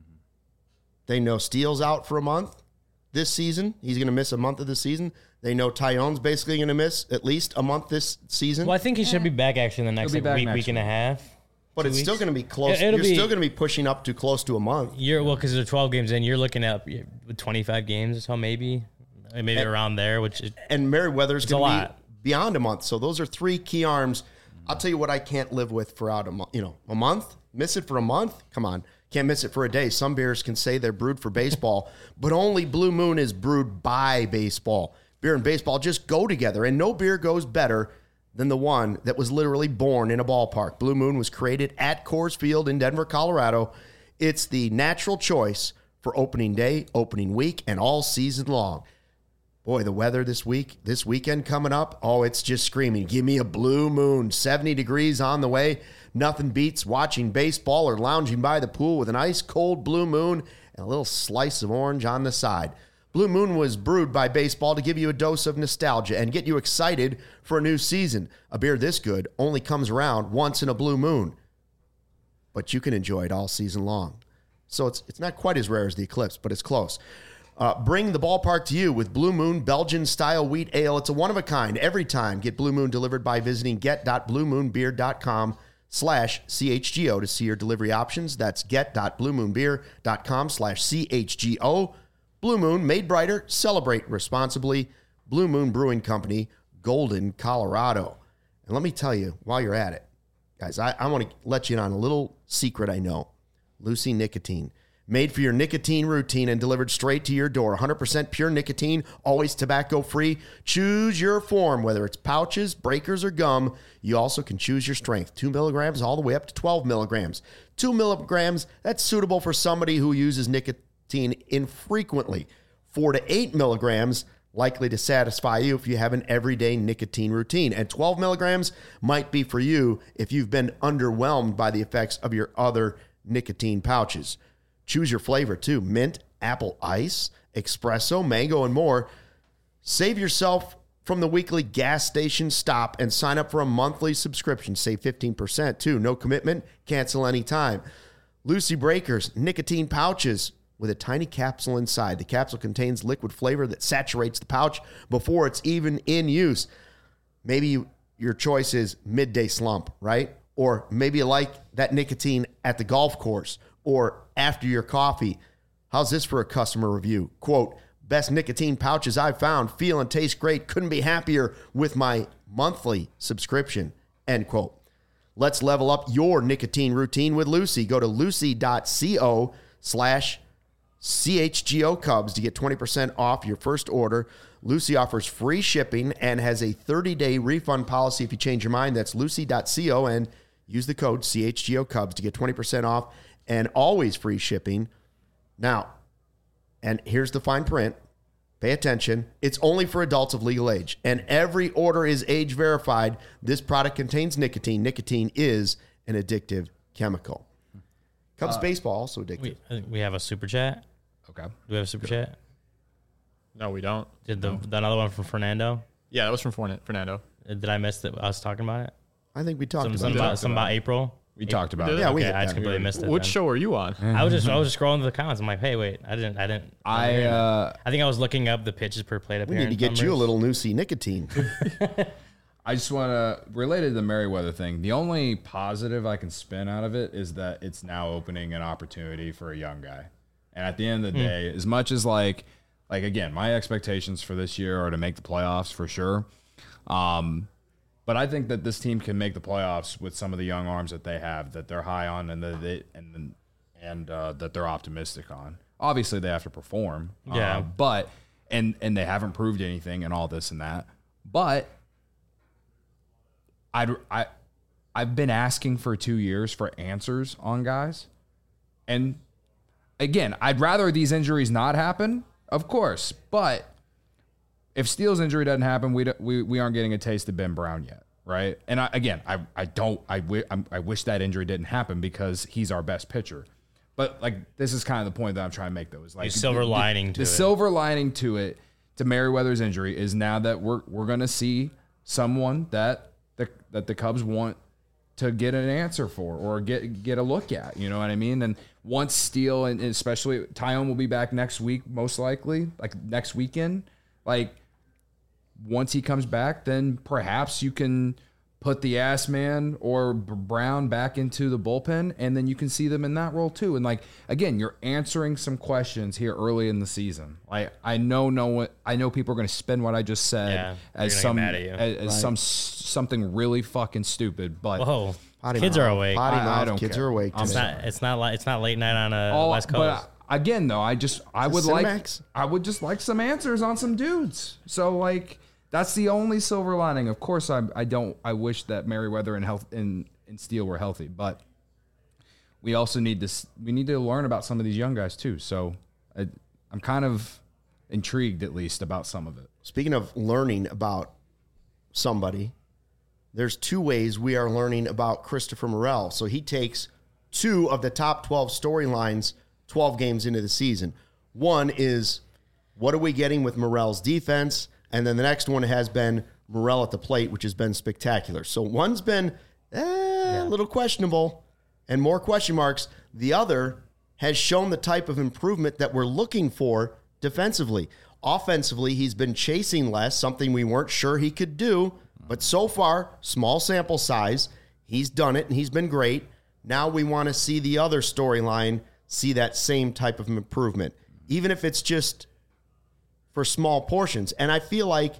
They know Steele's out for a month this season. He's going to miss a month of the season. They know Tyone's basically going to miss at least a month this season. Well, I think he should be back actually in the next like, week, week and a half. But it's weeks. still going to be close. It, you're be, still going to be pushing up to close to a month. You're well, because there's twelve games in. You're looking at twenty-five games or so, maybe, maybe and, around there. Which is, and Merriweather's going to be beyond a month. So those are three key arms. I'll tell you what I can't live with for out a month. You know, a month. Miss it for a month. Come on. Can't miss it for a day. Some beers can say they're brewed for baseball, but only Blue Moon is brewed by baseball. Beer and baseball just go together, and no beer goes better than the one that was literally born in a ballpark. Blue Moon was created at Coors Field in Denver, Colorado. It's the natural choice for opening day, opening week, and all season long. Boy, the weather this week, this weekend coming up, oh, it's just screaming. Give me a Blue Moon. seventy degrees on the way. Nothing beats watching baseball or lounging by the pool with an ice-cold Blue Moon and a little slice of orange on the side. Blue Moon was brewed by baseball to give you a dose of nostalgia and get you excited for a new season. A beer this good only comes around once in a blue moon, but you can enjoy it all season long. So it's it's not quite as rare as the Eclipse, but it's close. Uh, bring the ballpark to you with Blue Moon Belgian-style wheat ale. It's a one-of-a-kind every time. Get Blue Moon delivered by visiting get.bluemoonbeer.com slash CHGO to see your delivery options. That's get.bluemoonbeer.com slash CHGO. Blue Moon, made brighter, celebrate responsibly. Blue Moon Brewing Company, Golden, Colorado. And let me tell you, while you're at it, guys, I, I want to let you in on a little secret I know. Lucy Nicotine. Made for your nicotine routine and delivered straight to your door. one hundred percent pure nicotine, always tobacco-free. Choose your form, whether it's pouches, breakers, or gum. You also can choose your strength. Two milligrams all the way up to twelve milligrams. Two milligrams, that's suitable for somebody who uses nicotine infrequently. Four to eight milligrams, likely to satisfy you if you have an everyday nicotine routine. And twelve milligrams might be for you if you've been underwhelmed by the effects of your other nicotine pouches. Choose your flavor, too. Mint, apple ice, espresso, mango, and more. Save yourself from the weekly gas station stop and sign up for a monthly subscription. Save fifteen percent, too. No commitment. Cancel anytime. Lucy Breakers, nicotine pouches with a tiny capsule inside. The capsule contains liquid flavor that saturates the pouch before it's even in use. Maybe you, your choice is midday slump, right? Or maybe you like that nicotine at the golf course or after your coffee. How's this for a customer review? Quote, best nicotine pouches I've found. Feel and taste great. Couldn't be happier with my monthly subscription. End quote. Let's level up your nicotine routine with Lucy. Go to lucy.co slash C H G O Cubs to get twenty percent off your first order. Lucy offers free shipping and has a thirty-day refund policy if you change your mind. That's lucy dot co and use the code C H G O Cubs to get twenty percent off and always free shipping. Now, and here's the fine print. Pay attention. It's only for adults of legal age, and every order is age verified. This product contains nicotine. Nicotine is an addictive chemical. Cubs uh, baseball also addictive. We, I think we have a super chat. Okay. Do we have a super chat? No, we don't. Did the, no. the another one from Fernando? Yeah, that was from Fernando. Did I miss that? I was talking about it. I think we talked some, about some it. about, some about April. We April. talked about it. it. Yeah, okay, we. I just completely missed it. Which then. show are you on? I was just I was just scrolling through the comments. I'm like, hey, wait, I didn't I didn't. I I uh, I think I was looking up the pitches per plate We appearance. need to get numbers. you a little Nusi nicotine. I just want to related to the Merriweather thing. The only positive I can spin out of it is that it's now opening an opportunity for a young guy. And at the end of the Hmm. day, as much as like, like again, my expectations for this year are to make the playoffs for sure. Um, but I think that this team can make the playoffs with some of the young arms that they have, that they're high on, and that they and and uh, that they're optimistic on. Obviously, they have to perform. Yeah. Uh, but and and they haven't proved anything and all this and that. But I'd, I, I've been asking for two years for answers on guys. And again, I'd rather these injuries not happen, of course. But if Steele's injury doesn't happen, we, we, we aren't getting a taste of Ben Brown yet, right? And I, again, I, I don't, I, w- I wish that injury didn't happen because he's our best pitcher. But like, this is kind of the point that I'm trying to make, though. Is like The silver the, lining the, to the it. silver lining to it, to Merriweather's injury, is now that we're we're gonna see someone that the that the Cubs want to get an answer for or get get a look at. You know what I mean? And once Steele and especially Tyone will be back next week, most likely, like next weekend. Like once he comes back, then perhaps you can put the ass man or Brown back into the bullpen, and then you can see them in that role too. And like again, you're answering some questions here early in the season. Like I know, no one, I know people are going to spin what I just said Yeah, as they're some gonna get mad at you. as, as some something really fucking stupid. But Whoa, Potty kids mouth. are awake. Potty I- I mouth. don't Kids care. are awake. I'm It's today. not. It's not like it's not late night on a all, West Coast. but again, though, I just I Is would it like Cinemax? I would just like some answers on some dudes. So like. That's the only silver lining. Of course, I I don't. I wish that Merriweather and health and, and Steele were healthy, but we also need this. We need to learn about some of these young guys too. So I, I'm kind of intrigued, at least, about some of it. Speaking of learning about somebody, there's two ways we are learning about Christopher Morel. So he takes two of the top twelve storylines twelve games into the season. One is, what are we getting with Morel's defense? And then the next one has been Morel at the plate, which has been spectacular. So one's been eh, a little questionable and more question marks. The other has shown the type of improvement that we're looking for defensively. Offensively, he's been chasing less, something we weren't sure he could do. But so far, small sample size, he's done it and he's been great. Now we want to see the other storyline, see that same type of improvement, even if it's just for small portions. And I feel like,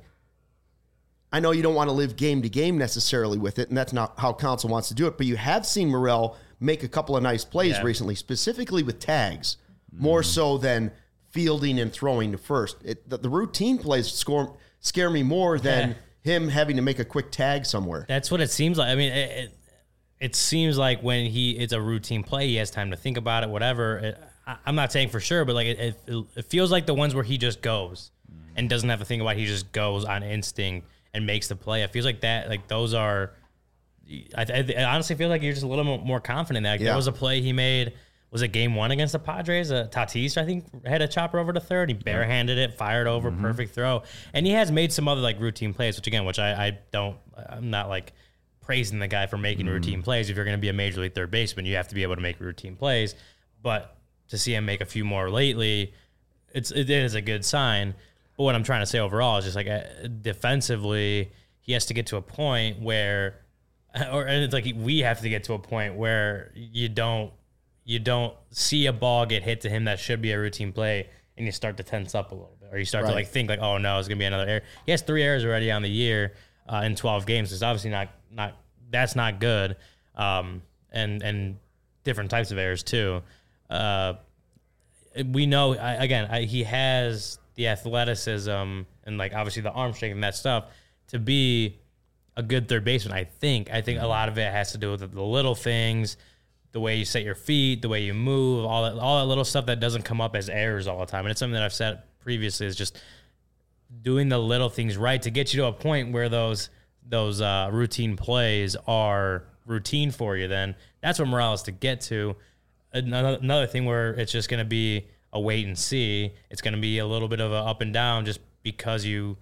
I know you don't want to live game to game necessarily with it, and that's not how Council wants to do it, but you have seen Morel make a couple of nice plays Yeah. recently, specifically with tags, more so than fielding and throwing to first. It, the, the routine plays score, scare me more than Yeah. him having to make a quick tag somewhere. That's what it seems like. I mean, it, it, it seems like when he it's a routine play, he has time to think about it, whatever. It, I, I'm not saying for sure, but like it, it, it feels like the ones where he just goes and doesn't have to think about it. He just goes on instinct and makes the play. It feels like that. Like those are. I, I, I honestly feel like you're just a little more confident. Like Yeah. there was a play he made. Was it game one against the Padres? Uh, Tatis, I think, had a chopper over to third. He barehanded it, fired over, perfect throw. And he has made some other like routine plays, which again, which I, I don't, I'm not like praising the guy for making routine plays. If you're going to be a major league third baseman, you have to be able to make routine plays. But to see him make a few more lately, it's it is a good sign. But what I'm trying to say overall is just like uh, defensively, he has to get to a point where, or and it's like we have to get to a point where you don't. You don't see a ball get hit to him that should be a routine play, and you start to tense up a little bit, or you start Right. to like think like, oh no, it's gonna be another error. He has three errors already on the year uh, in twelve games. It's obviously not not that's not good, um, and and different types of errors too. Uh, we know, I, again, I, he has the athleticism and, like, obviously the arm strength and that stuff to be a good third baseman, I think. I think a lot of it has to do with the little things, the way you set your feet, the way you move, all that, all that little stuff that doesn't come up as errors all the time. And it's something that I've said previously is just doing the little things right to get you to a point where those those uh, routine plays are routine for you. Then that's what Morales to get to. Another, another thing where it's just going to be a wait and see. It's going to be a little bit of a up and down just because you,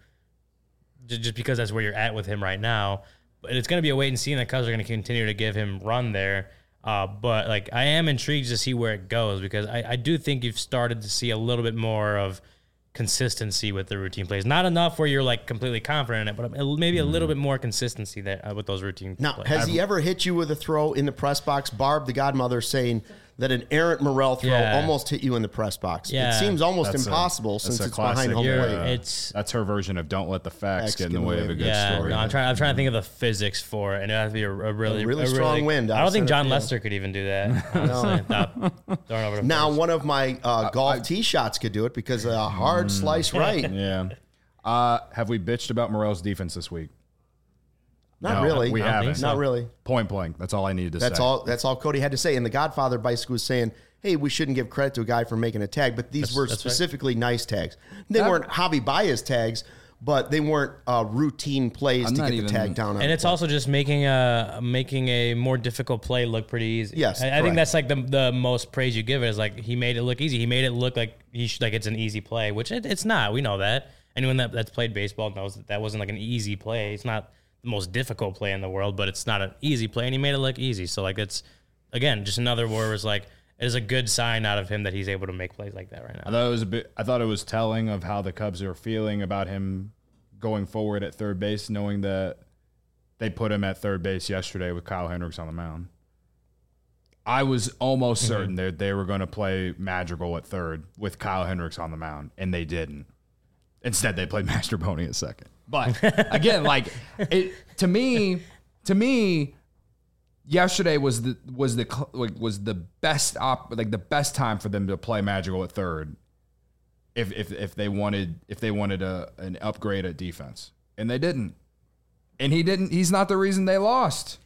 just because that's where you're at with him right now. But it's going to be a wait and see, and the Cubs are going to continue to give him run there. Uh, but like I am intrigued to see where it goes because I, I do think you've started to see a little bit more of consistency with the routine plays. Not enough where you're like completely confident in it, but maybe a little bit more consistency there uh, with those routine Now, plays. has I've, he ever hit you with a throw in the press box? Barb, the godmother, saying that an errant Morel throw Yeah. almost hit you in the press box. Yeah. It seems almost That's a- impossible that's since a it's behind classic, home You're- plate. uh, it's That's her version of don't let the facts get in the way of a good yeah. story. No, I'm trying. I'm trying to think of the physics for it, and it has to be a, a really, A really strong wind I out don't think center John field. Lester could even do that. Honestly, without throwing over the Now, first. one of my uh, golf tee shots could do it because a hard Mm. slice right. Yeah. Uh, have we bitched about Morel's defense this week? Not No, really. we I don't haven't. think so. Not really. Point blank. That's all I needed to That's say. all. That's all Cody had to say. And the Godfather basically was saying, "Hey, we shouldn't give credit to a guy for making a tag, but these That's- were that's right. specifically nice tags. They That- weren't hobby bias tags, but they weren't uh, routine plays I'm to not get even- the tag down on. And the it's play. also just making a making a more difficult play look pretty easy. Yes, I, I correct. think that's like the the most praise you give it is like he made it look easy. He made it look like he should, like it's an easy play, which it, it's not. We know that. Anyone that, that's played baseball knows that that wasn't like an easy play. It's not the most difficult play in the world, but it's not an easy play, and he made it look easy. So like it's again just another word was like it is a good sign out of him that he's able to make plays like that right I now. thought it was a bit. I thought it was telling of how the Cubs are feeling about him going forward at third base, knowing that they put him at third base yesterday with Kyle Hendricks on the mound. I was almost Mm-hmm. certain that they were going to play Madrigal at third with Kyle Hendricks on the mound, and they didn't. Instead, they played Mastroboni at second. But again, like it to me, to me, yesterday was the was the cl- like was the best op like the best time for them to play Madrigal at third. If if if they wanted if they wanted a an upgrade at defense, and they didn't, and he didn't. He's not the reason they lost.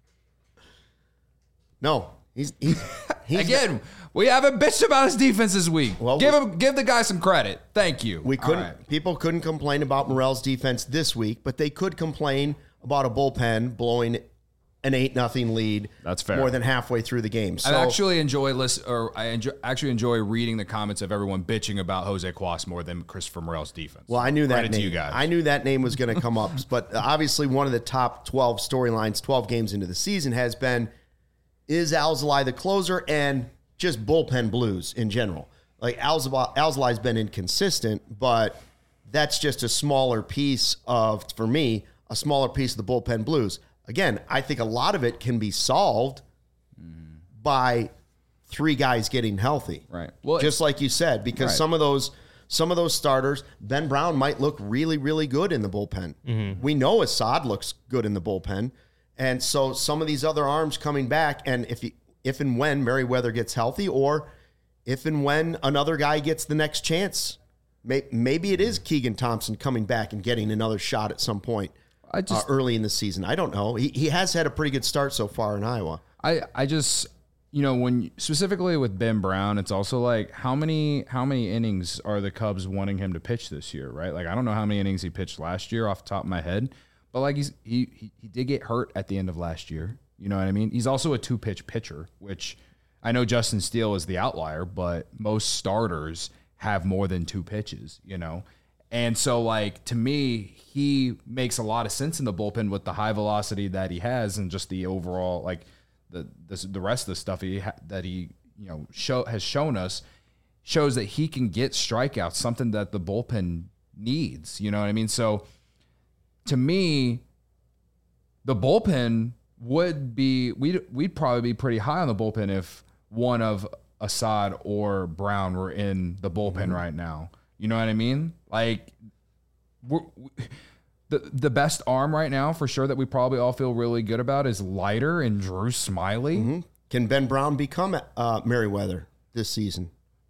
no. He's he's, he's Again, we haven't bitched about his defense this week. Well, give we- him give the guy some credit. Thank you. We All couldn't. right. People couldn't complain about Morel's defense this week, but they could complain about a bullpen blowing an eight nothing lead. That's fair. More than halfway through the game. So I actually enjoy listen, or I enjoy, actually enjoy reading the comments of everyone bitching about Jose Cuas more than Christopher Morel's defense. well, I knew that Credit name. to you guys. I knew that name was going to come up, but obviously one of the top twelve storylines, twelve games into the season, has been is Alzolay the closer and just bullpen blues in general. Like Alzolay, Alzolay's been inconsistent, but that's just a smaller piece of, for me, a smaller piece of the bullpen blues. Again, I think a lot of it can be solved by three guys getting healthy. Right. Well, Just like you said, because Right. some of those some of those starters, Ben Brown might look really, really good in the bullpen. Mm-hmm. We know Assad looks good in the bullpen. And so some of these other arms coming back, and if he, if and when Merriweather gets healthy, or if and when another guy gets the next chance, may, maybe it is Keegan Thompson coming back and getting another shot at some point I just uh, early in the season. I don't know. He, he has had a pretty good start so far in Iowa. I, I just you know when specifically with Ben Brown, it's also like how many how many innings are the Cubs wanting him to pitch this year, right? Like I don't know how many innings he pitched last year off the top of my head, but like he's he he, he did get hurt at the end of last year. You know what I mean? He's also a two pitch pitcher, which I know Justin Steele is the outlier, but most starters have more than two pitches. You know. And so, like, to me, he makes a lot of sense in the bullpen with the high velocity that he has and just the overall, like, the the, the rest of the stuff he ha- that he, you know, show has shown us shows that he can get strikeouts, something that the bullpen needs. You know what I mean? So, to me, the bullpen would be, we'd, we'd probably be pretty high on the bullpen if one of Assad or Brown were in the bullpen Mm-hmm. right now. You know what I mean? Like, we're, we, the the best arm right now for sure that we probably all feel really good about is Leiter and Drew Smiley. Mm-hmm. Can Ben Brown become uh, Merriweather this season?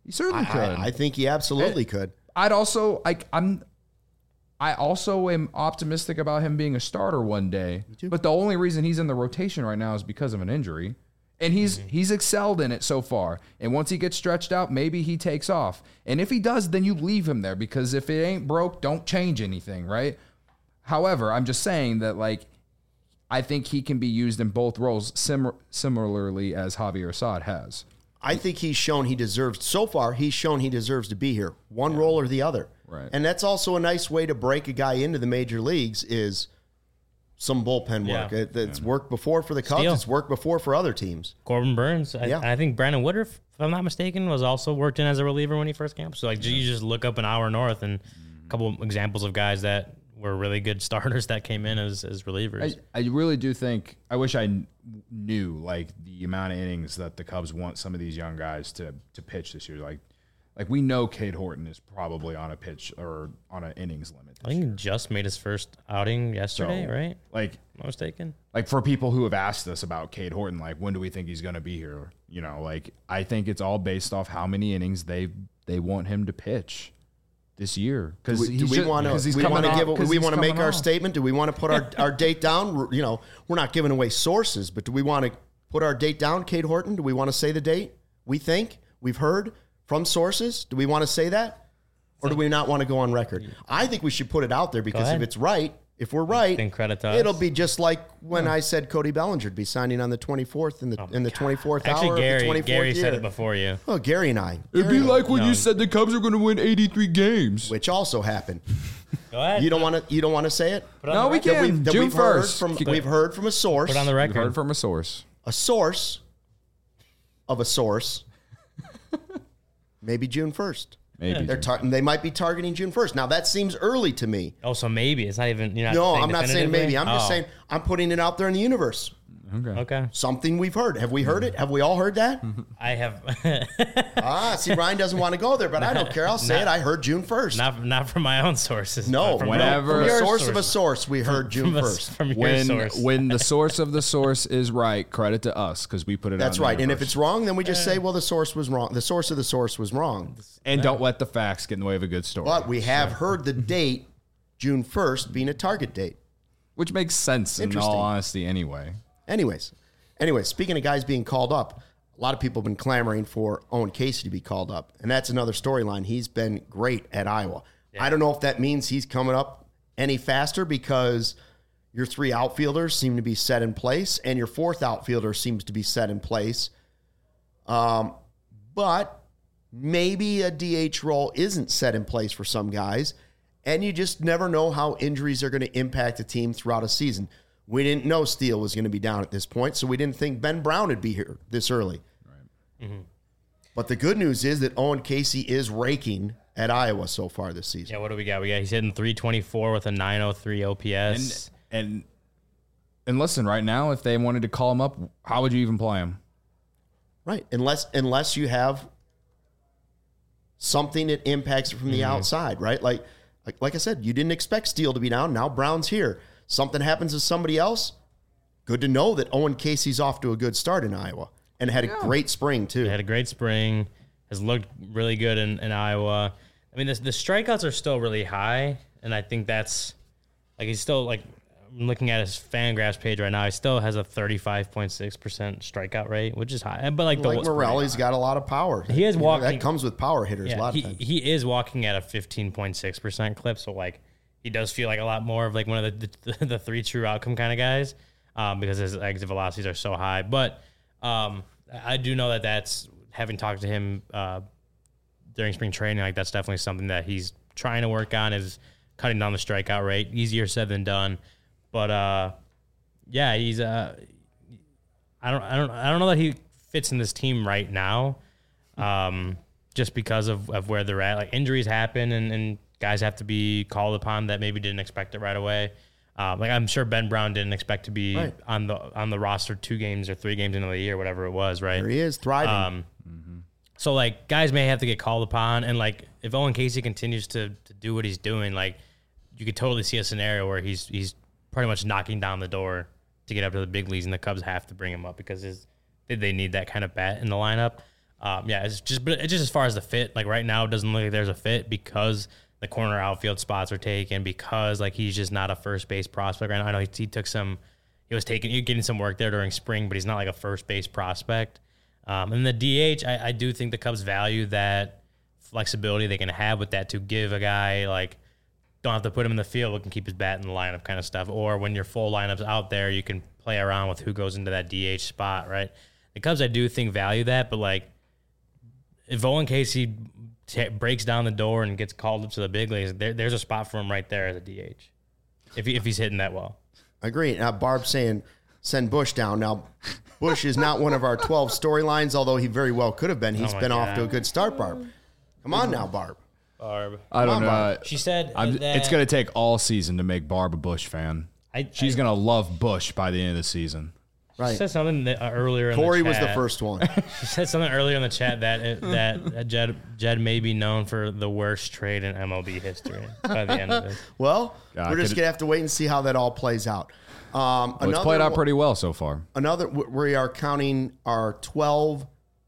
He certainly I, could. I, I think he absolutely could. I'd also like I'm I also am optimistic about him being a starter one day. But the only reason he's in the rotation right now is because of an injury. And he's mm-hmm. he's excelled in it so far. And once he gets stretched out, maybe he takes off. And if he does, then you leave him there because if it ain't broke, don't change anything, right? However, I'm just saying that like I think he can be used in both roles sim- similarly as Javier Assad has. I think he's shown he deserves, so far, he's shown he deserves to be here. One yeah. role or the other. Right. And that's also a nice way to break a guy into the major leagues is some bullpen work. Yeah. It, it's yeah. worked before for the Cubs. Steal. It's worked before for other teams. Corbin Burns. I, yeah. I think Brandon Woodruff, if I'm not mistaken, was also worked in as a reliever when he first came up. So, like, yeah. you just look up an hour north and a couple examples of guys that were really good starters that came in as, as relievers. I, I really do think, I wish I kn- knew, like, the amount of innings that the Cubs want some of these young guys to to pitch this year. Like, like we know Cade Horton is probably on a pitch or on an innings limit. I think year. he just made his first outing yesterday, so, right? Like, am I mistaken? Like, for people who have asked us about Cade Horton, like, when do we think he's going to be here? You know, like, I think it's all based off how many innings they they want him to pitch this year. Because do we want to we want to give do we want to make our off. statement? Do we want to put our, our date down? You know, we're not giving away sources, but do we want to put our date down, Cade Horton? Do we want to say the date? We think we've heard from sources. Do we want to say that, or do we not want to go on record? I think we should put it out there because if it's right, if we're right, then credit to us. It'll be just like when yeah. I said Cody Bellinger would be signing on the twenty-fourth in the oh in the twenty-fourth hour. Actually, Gary, of the twenty-fourth Gary year. said it before you. Oh, Gary and I. It'd Gary be like when no. you said the Cubs are going to win eighty-three games, which also happened. Go ahead. You don't want to. You don't want to say it. No, we can. That we've, that June we've heard first. from we've heard from a source. Put on the record. We've heard from a source. A source of a source. Maybe June first. Maybe they're tar- they might be targeting June first. Now that seems early to me. Oh, so maybe it's not even. You're not no, saying I'm not saying maybe. I'm just oh. saying I'm putting it out there in the universe. Okay. Okay. Something we've heard. Have we heard it? Have we all heard that? I have. ah, see, Ryan doesn't want to go there, but I don't care. I'll say not, it. I heard June first. Not from, not from my own sources. No, from whenever from a source sources. of a source, we heard from, June from first. A, from your when source. when the source of the source is right, credit to us because we put it. That's out right. And if universe. it's wrong, then we just say, well, the source was wrong. The source of the source was wrong. And don't let the facts get in the way of a good story. But we have heard the date, June first, being a target date. Which makes sense in all honesty anyway. Anyways. Anyways, speaking of guys being called up, a lot of people have been clamoring for Owen Casey to be called up. And that's another storyline. He's been great at Iowa. Yeah. I don't know if that means he's coming up any faster because your three outfielders seem to be set in place and your fourth outfielder seems to be set in place. Um, but maybe a D H role isn't set in place for some guys, and you just never know how injuries are going to impact a team throughout a season. We didn't know Steele was going to be down at this point, so we didn't think Ben Brown would be here this early. Right. Mm-hmm. But the good news is that Owen Casey is raking at Iowa so far this season. Yeah, what do we got? We got he's hitting three twenty-four with a nine oh three O P S. And, and and listen, right now, if they wanted to call him up, how would you even play him? Right, unless unless you have something that impacts it from the mm-hmm. outside, right? Like, like like I said, you didn't expect Steele to be down. Now Brown's here. Something happens to somebody else, good to know that Owen Casey's off to a good start in Iowa and had yeah. a great spring, too. He had a great spring, has looked really good in, in Iowa. I mean, this, the strikeouts are still really high, and I think that's, like, he's still, like, I'm looking at his Fangraphs page right now, he still has a thirty-five point six percent strikeout rate, which is high. But, like, like the, Morelli's got a lot of power. He is you walking. Know, that comes with power hitters yeah, a lot he, of times. He is walking at a fifteen point six percent clip, so, like, he does feel like a lot more of like one of the the, the three true outcome kind of guys um, because his exit velocities are so high. But um, I do know that that's, having talked to him uh, during spring training, like that's definitely something that he's trying to work on, is cutting down the strikeout rate. Easier said than done. But uh, yeah, he's uh, I don't I don't I don't know that he fits in this team right now, um, just because of, of where they're at. Like injuries happen and and. Guys have to be called upon that maybe didn't expect it right away. Um, like I'm sure Ben Brown didn't expect to be right. on the on the roster two games or three games into the year, whatever it was, right? There he is, thriving. Um, mm-hmm. So like guys may have to get called upon, and like if Owen Casey continues to to do what he's doing, like you could totally see a scenario where he's he's pretty much knocking down the door to get up to the big leagues, and the Cubs have to bring him up because his, they need that kind of bat in the lineup. Um, yeah, it's just but it's just as far as the fit. Like right now, it doesn't look like there's a fit because the corner outfield spots are taken because like he's just not a first base prospect right now. I know he, he took some, he was taking, he was getting some work there during spring, but he's not like a first base prospect. Um, and the D H, I, I do think the Cubs value that flexibility they can have with that to give a guy like, don't have to put him in the field, but can keep his bat in the lineup kind of stuff. Or when your full lineup's out there, you can play around with who goes into that D H spot, right? The Cubs, I do think, value that, but like if Owen Casey t- breaks down the door and gets called up to the big leagues, there, there's a spot for him right there as a D H if he, if he's hitting that well. I agree. Now, Barb's saying send Bush down. Now, Bush is not one of our twelve storylines, although he very well could have been. He's Oh my been off God. to a good start, Barb. Come on now, Barb. Barb. I don't Come on, know. Barb. She said I'm, that it's going to take all season to make Barb a Bush fan. I, She's I, going to love Bush by the end of the season. She Right. said something that, uh, earlier. Corey in the was chat. the first one. She said something earlier in the chat that it, that Jed Jed may be known for the worst trade in M L B history by the end of it. Well, God, we're just could- going to have to wait and see how that all plays out. Um, Well, it's another played out one- pretty well so far. Another, we are counting our twelve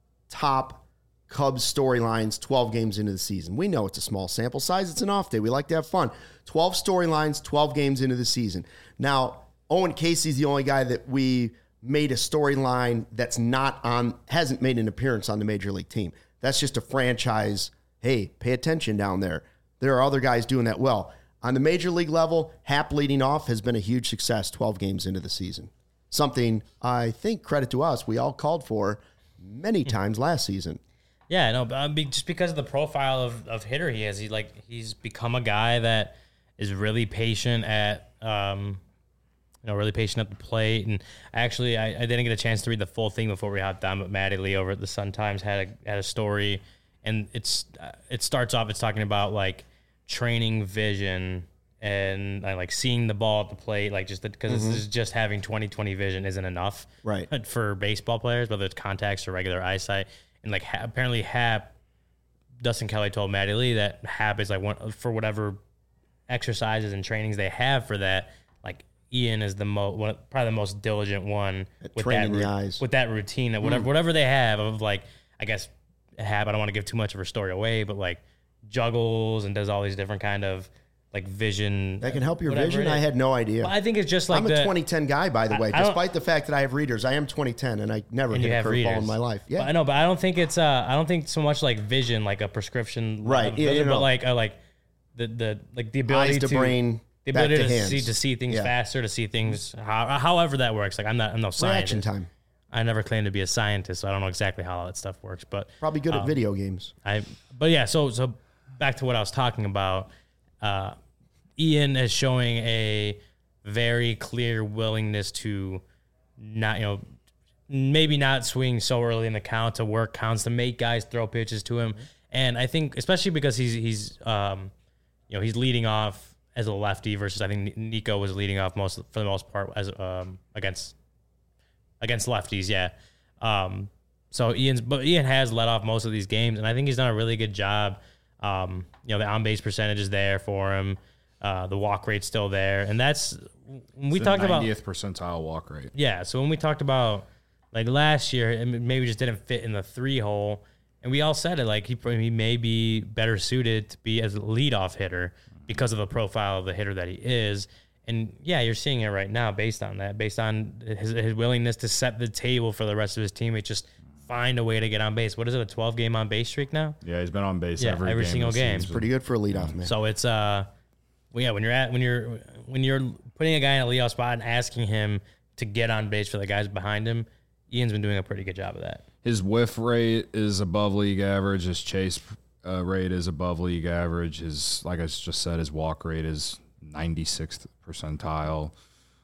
top Cubs storylines twelve games into the season. We know it's a small sample size. It's an off day. We like to have fun. twelve storylines, twelve games into the season. Now, Owen Casey's the only guy that we made a storyline that's not on, hasn't made an appearance on the major league team. That's just a franchise. Hey, pay attention down there. There are other guys doing that well. On the major league level, Happ leading off has been a huge success twelve games into the season. Something I think, credit to us, we all called for many times last season. Yeah, no, but I mean, just because of the profile of, of hitter he is, he like he's become a guy that is really patient at, um, you know, really patient at the plate. And actually, I, I didn't get a chance to read the full thing before we hopped on, but Matty Lee over at the Sun Times had a had a story, and it's uh, it starts off it's talking about like training vision and uh, like seeing the ball at the plate, like just because Mm-hmm. this is just having twenty twenty vision isn't enough, Right. for baseball players, whether it's contacts or regular eyesight. And like ha- apparently Hap, Dustin Kelly told Matty Lee that Hap is like one for whatever exercises and trainings they have for that. Like Ian is the most, one, probably the most diligent one At with training that the ru- eyes. with that routine that whatever whatever they have of like I guess Hap. I don't want to give too much of her story away, but like juggles and does all these different kind of like vision That can help your whatever vision? it I is. had no idea. Well, I think it's just like I'm a the, twenty ten guy, by the I- way. I don't- Despite the fact that I have readers, I am twenty ten, and I never and hit you a have curveball readers in my life. But I Yeah, know, but I don't think it's uh, I don't think so much like vision, like a prescription, Right, of yeah, vision, you know. but like uh, like the the like the ability eyes to to brain, the back ability to to hands. see to see things Yeah. faster, to see things how, however that works. Like I'm not I'm no Reaction scientist. time. I never claimed to be a scientist, so I don't know exactly how all that stuff works. But Probably good at Um, video games. I but yeah, so so back to what I was talking about. Uh, Ian is showing a very clear willingness to not, you know, maybe not swing so early in the count, to work counts, to make guys throw pitches to him. And I think especially because he's he's um, you know, he's leading off as a lefty versus I think Nico was leading off most for the most part as um against against lefties, yeah. Um, so Ian's, but Ian has led off most of these games, and I think he's done a really good job. Um, you know, the on base percentage is there for him. Uh, the walk rate's still there, and that's when we It's talked the about. ninetieth percentile walk rate. Yeah, so when we talked about like last year, it maybe just didn't fit in the three hole, and we all said it like he he may be better suited to be as a leadoff hitter because of the profile of the hitter that he is. And yeah, you're seeing it right now based on that, based on his, his willingness to set the table for the rest of his teammates, just find a way to get on base. What is it, a twelve game on base streak now? Yeah, he's been on base Yeah, every, every game single this game. season. Pretty good for a leadoff man. So it's uh, well, yeah, when you're at when you're when you're putting a guy in a leadoff spot and asking him to get on base for the guys behind him, Ian's been doing a pretty good job of that. His whiff rate is above league average. His chase uh, rate is above league average. His, like I just said, his walk rate is ninety-sixth percentile.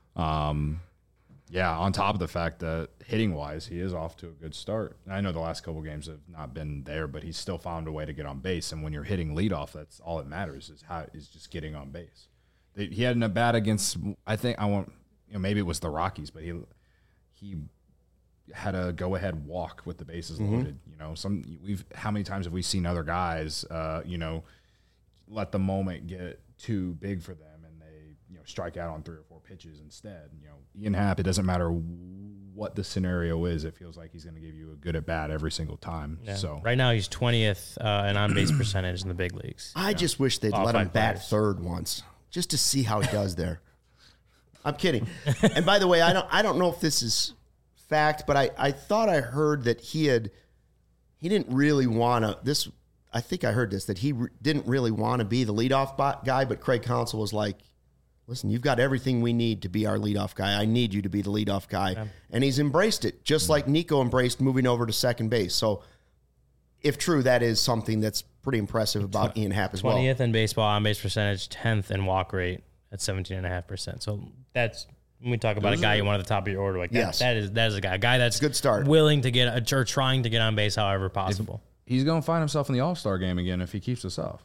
Um, yeah, on top of the fact that hitting wise, he is off to a good start. And I know the last couple games have not been there, but he's still found a way to get on base. And when you're hitting leadoff, that's all that matters is how is just getting on base. They, he had an at bat against, I think I want, you know, maybe it was the Rockies, but he he had a go ahead walk with the bases Mm-hmm. loaded. You know, some we've how many times have we seen other guys, uh, you know, let the moment get too big for them and they you know, strike out on three or four pitches instead. You know, Ian Happ, it doesn't matter what the scenario is, it feels like he's going to give you a good at bat every single time. Yeah. So right now he's twentieth uh, in on base percentage in the big leagues. I just wish they'd All let him five bat players. third once, just to see how he does there. I'm kidding. And by the way, I don't I don't know if this is fact, but I, I thought I heard that he had he didn't really want to this. I think I heard this that he re- didn't really want to be the leadoff bot guy, but Craig Counsell was like, "Listen, you've got everything we need to be our leadoff guy. I need you to be the leadoff guy," yeah. And he's embraced it, just mm-hmm. like Nico embraced moving over to second base. So, if true, that is something that's pretty impressive about Ian Happ as well. twentieth in baseball on base percentage, tenth in walk rate at seventeen and a half percent. So that's when we talk about Those a guy you want at the top of your order. Like that, yes. that is that is a guy, a guy that's good start, willing to get or trying to get on base however possible. If, He's going to find himself in the All-Star game again if he keeps this up.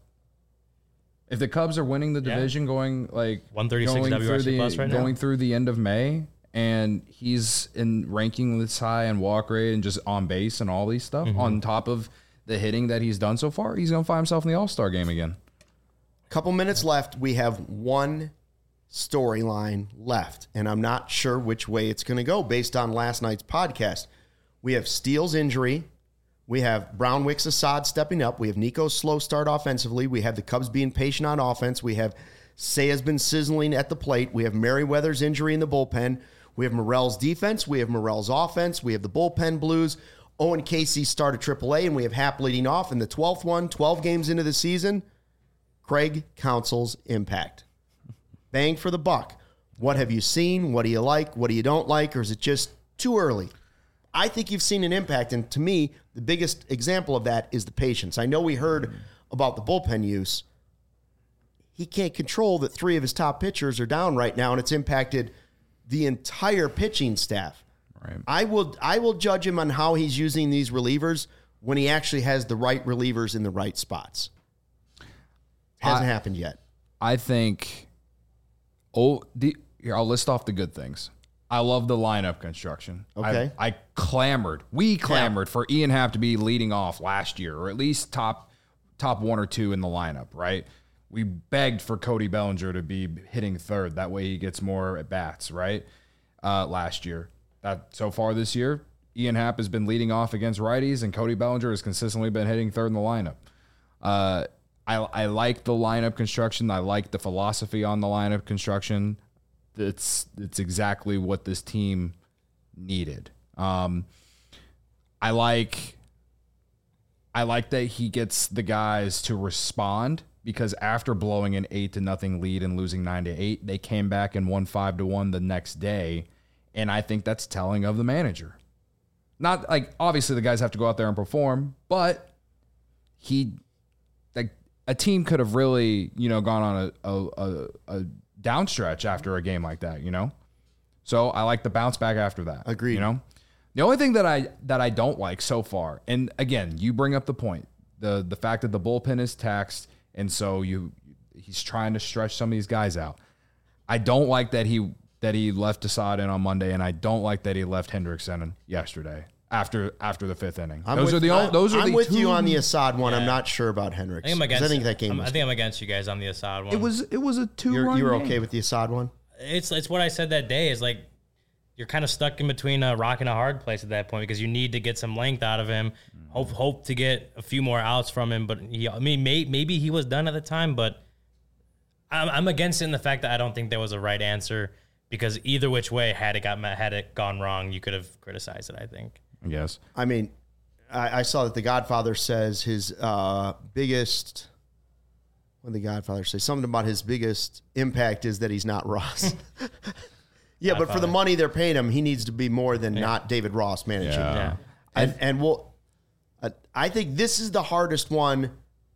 If the Cubs are winning the division yeah. going like one thirty-six going, W R C through the, plus right going now. through the end of May, and he's in ranking this high and walk rate and just on base and all these stuff, mm-hmm. on top of the hitting that he's done so far, he's going to find himself in the All-Star game again. Couple minutes left. We have one storyline left, and I'm not sure which way it's going to go based on last night's podcast. We have Steele's injury. We have Brownwick's Assad stepping up. We have Nico's slow start offensively. We have the Cubs being patient on offense. We have Seiya's been sizzling at the plate. We have Merriweather's injury in the bullpen. We have Morel's defense. We have Morel's offense. We have the bullpen blues. Owen Casey start at triple A, and we have Happ leading off in the twelfth one, twelve games into the season. Craig Counsell's impact. Bang for the buck. What have you seen? What do you like? What do you don't like? Or is it just too early? I think you've seen an impact, and to me, the biggest example of that is the patience. I know we heard about the bullpen use. He can't control that three of his top pitchers are down right now, and it's impacted the entire pitching staff. Right. I will I will judge him on how he's using these relievers when he actually has the right relievers in the right spots. Hasn't I, happened yet. I think. Oh, the here I'll list off the good things. I love the lineup construction. Okay. I, I clamored. We clamored yeah. for Ian Happ to be leading off last year, or at least top top one or two in the lineup, right? We begged for Cody Bellinger to be hitting third. That way he gets more at bats, right? Uh, last year. That so far this year, Ian Happ has been leading off against righties, and Cody Bellinger has consistently been hitting third in the lineup. Uh, I, I like the lineup construction. I like the philosophy on the lineup construction. It's it's exactly what this team needed. Um, I like I like that he gets the guys to respond, because after blowing an eight to nothing lead and losing nine to eight, they came back and won five to one the next day, and I think that's telling of the manager. Not like obviously the guys have to go out there and perform, but he like a team could have really you know gone on a a, a, a downstretch after a game like that, you know? So I like the bounce back after that. Agreed. You know? The only thing that I that I don't like so far, and again, you bring up the point, the the fact that the bullpen is taxed, and so you he's trying to stretch some of these guys out. I don't like that he that he left Assad in on Monday, and I don't like that he left Hendrickson in yesterday after after the fifth inning. I'm those with, are the only, those are I'm the with two, you on the Assad one. Yeah. I'm not sure about Hendricks. I think I'm against. I think that game. I'm, Was, I think I'm against you guys on the Assad one. It was it was a two you're, run. you were game. okay with the Assad one? It's it's what I said that day. Is like you're kind of stuck in between a rock and a hard place at that point, because you need to get some length out of him. Mm-hmm. Hope hope to get a few more outs from him. But he, I mean, may, maybe he was done at the time. But I'm, I'm against it in the fact that I don't think there was a right answer, because either which way, had it got had it gone wrong, you could have criticized it. I think. Yes. I mean, I, I saw that The Godfather says his uh, biggest. What did The Godfather say? Something about his biggest impact is that he's not Ross. Yeah, but for the money they're paying him, he needs to be more than yeah. not David Ross managing. Yeah. Yeah. And and we'll, uh, I think this is the hardest one,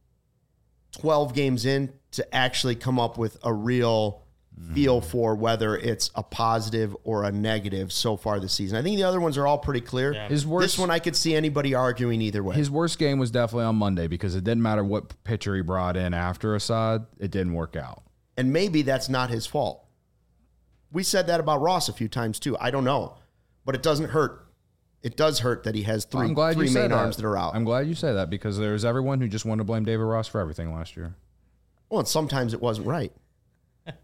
twelve games in, to actually come up with a real feel for whether it's a positive or a negative so far this season. I think the other ones are all pretty clear. Yeah. His worst, this one I could see anybody arguing either way. His worst game was definitely on Monday, because it didn't matter what pitcher he brought in after Assad, it didn't work out. And maybe that's not his fault. We said that about Ross a few times too. I don't know. But it doesn't hurt. It does hurt that he has three, I'm glad three you main said that. arms that are out. I'm glad you say that, because there's everyone who just wanted to blame David Ross for everything last year. Well, and sometimes it wasn't right.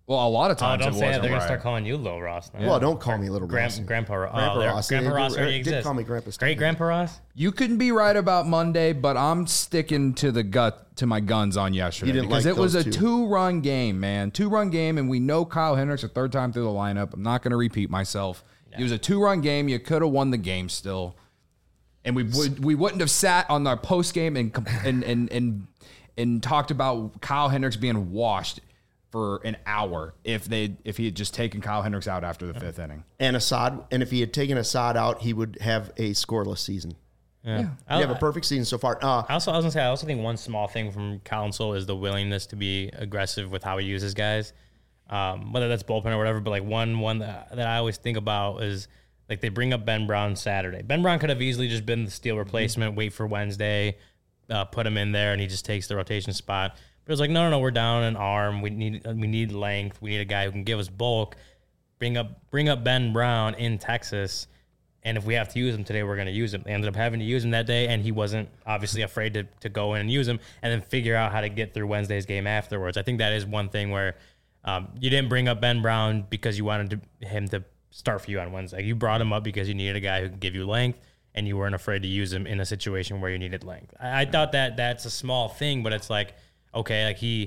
Well, a lot of Oh, times don't it say that. wasn't They're gonna right. start calling you Little Ross now. Well, don't call me Little Grand, Ross. Grandpa, Ross. Grandpa oh, there- Ross. Grandpa They- Ross they already did exists. call me Grandpa Steve. Great Grandpa Ross. You couldn't be right about Monday, but I'm sticking to the gut to my guns on yesterday You didn't because like it was a those two. two-run game, man. Two-run game, and we know Kyle Hendricks a third time through the lineup. I'm not going to repeat myself. It was a two-run game. You could have won the game still, and we would we wouldn't have sat on our post game and comp- and and and and talked about Kyle Hendricks being washed for an hour if they if he had just taken Kyle Hendricks out after the fifth inning. And Assad, and if he had taken Assad out, he would have a scoreless season. Yeah. You I, have a perfect season so far. Uh, I also, I was gonna say, I also think one small thing from Council is the willingness to be aggressive with how he uses guys, um, whether that's bullpen or whatever. But like one, one that, that I always think about is like they bring up Ben Brown Saturday. Ben Brown could have easily just been the steal replacement, wait for Wednesday, uh, put him in there, and he just takes the rotation spot. But it was like, no, no, no, we're down an arm. We need, we need length. We need a guy who can give us bulk. Bring up, bring up Ben Brown in Texas. And if we have to use him today, we're going to use him. They ended up having to use him that day, and he wasn't obviously afraid to, to go in and use him and then figure out how to get through Wednesday's game afterwards. I think that is one thing where um, you didn't bring up Ben Brown because you wanted to, him to start for you on Wednesday. You brought him up because you needed a guy who could give you length, and you weren't afraid to use him in a situation where you needed length. I, I thought that that's a small thing, but it's like, okay, like he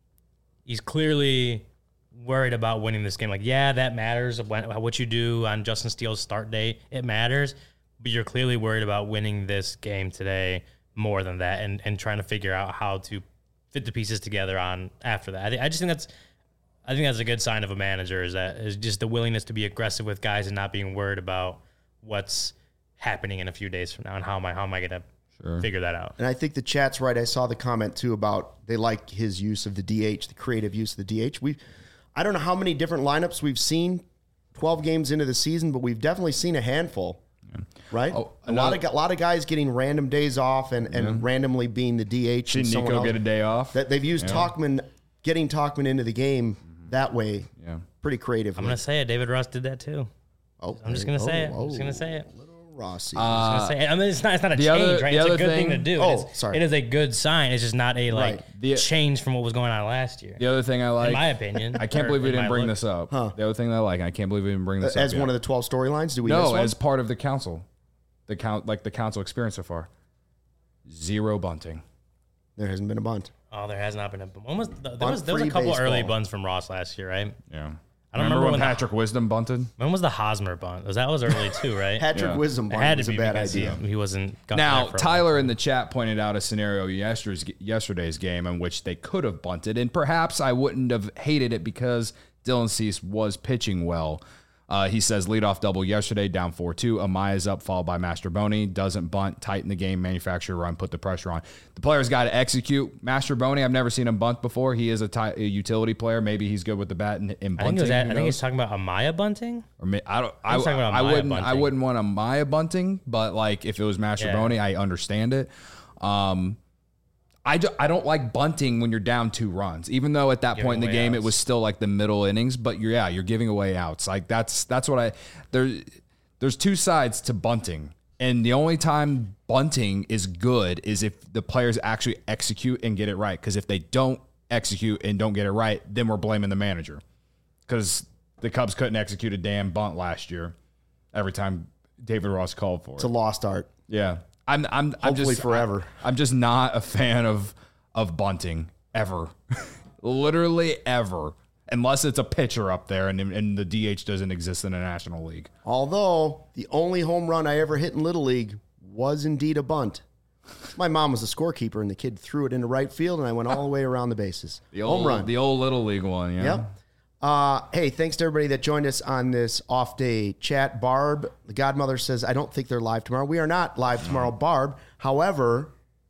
he's clearly worried about winning this game. Like, yeah, that matters. When, what you do on Justin Steele's start date, it matters. But you're clearly worried about winning this game today more than that, and, and trying to figure out how to fit the pieces together on after that. I, th- I just think that's, I think that's a good sign of a manager is that is just the willingness to be aggressive with guys and not being worried about what's happening in a few days from now and how am I how am I going to sure. figure that out. And I think the chat's right. I saw the comment too about they like his use of the D H, the creative use of the D H. We, I don't know how many different lineups we've seen twelve games into the season, but we've definitely seen a handful, yeah. right? Oh, a lot of a lot of guys getting random days off and, and yeah. randomly being the D H. Seen Nico else. Get a day off. That they've used yeah. Tauchman, getting Tauchman into the game that way. Yeah, pretty creative. I'm gonna say it. David Ross did that too. Oh, I'm just gonna oh, say it. Oh, I'm just gonna say it. Rossi. Uh, I, was gonna say, I mean, it's not. It's not a change, other, right? It's a good thing, thing to do. Oh, it's, sorry. It is a good sign. It's just not a like right. the, change from what was going on last year. The other thing I like, in my opinion, I can't believe we didn't bring look. this up. Huh. The other thing that I like, I can't believe we didn't bring this uh, up as yet. one of the twelve storylines. Do we? No, miss one? as part of the council, the count like the council experience so far. Zero bunting. There hasn't been a bunt. Oh, there has not been a bunt. When was the, there was there was a couple baseball. early bunts from Ross last year, right? Yeah. I don't remember, remember when, when Patrick the, Wisdom bunted. When was the Hosmer bunt? Was that was early too, right? Patrick Yeah. Wisdom It bunt had to was be a bad because idea. He, he wasn't. got Now, there for a Tyler in the chat pointed out a scenario yesterday's yesterday's game in which they could have bunted, and perhaps I wouldn't have hated it because Dylan Cease was pitching well. Uh, he says leadoff double yesterday, down four two. Amaya's up, followed by Mastroboni. Doesn't bunt, tighten the game, manufacture a run, put the pressure on. The player's got to execute. Mastroboni, I've never seen him bunt before. He is a, ty- a utility player. Maybe he's good with the bat and, and bunting. I think, it was at, Who I think he's knows? talking about Amaya bunting. Or may, I don't. I, He's talking about I Amaya wouldn't. I bunting. wouldn't want Amaya bunting, but like if it was Mastroboni, Yeah. I understand it. Um, I, do, I don't like bunting when you're down two runs, even though at that Giving point in the away game outs. it was still like the middle innings. But you're yeah, you're giving away outs. Like that's that's what I there. There's two sides to bunting, and the only time bunting is good is if the players actually execute and get it right. Because if they don't execute and don't get it right, then we're blaming the manager. Because the Cubs couldn't execute a damn bunt last year. Every time David Ross called for It's it. a lost art. Yeah. I'm I'm I'm Hopefully just forever. I, I'm just not a fan of of bunting ever. Literally ever. Unless it's a pitcher up there and and the D H doesn't exist in the National League. Although the only home run I ever hit in Little League was indeed a bunt. My mom was a scorekeeper, and the kid threw it into right field, and I went all the way around the bases. The old, home run. The old Little League one, yeah. Yep. Uh, hey, thanks to everybody that joined us on this off-day chat. Barb, the godmother, says, I don't think they're live tomorrow. We are not live tomorrow, Barb. However,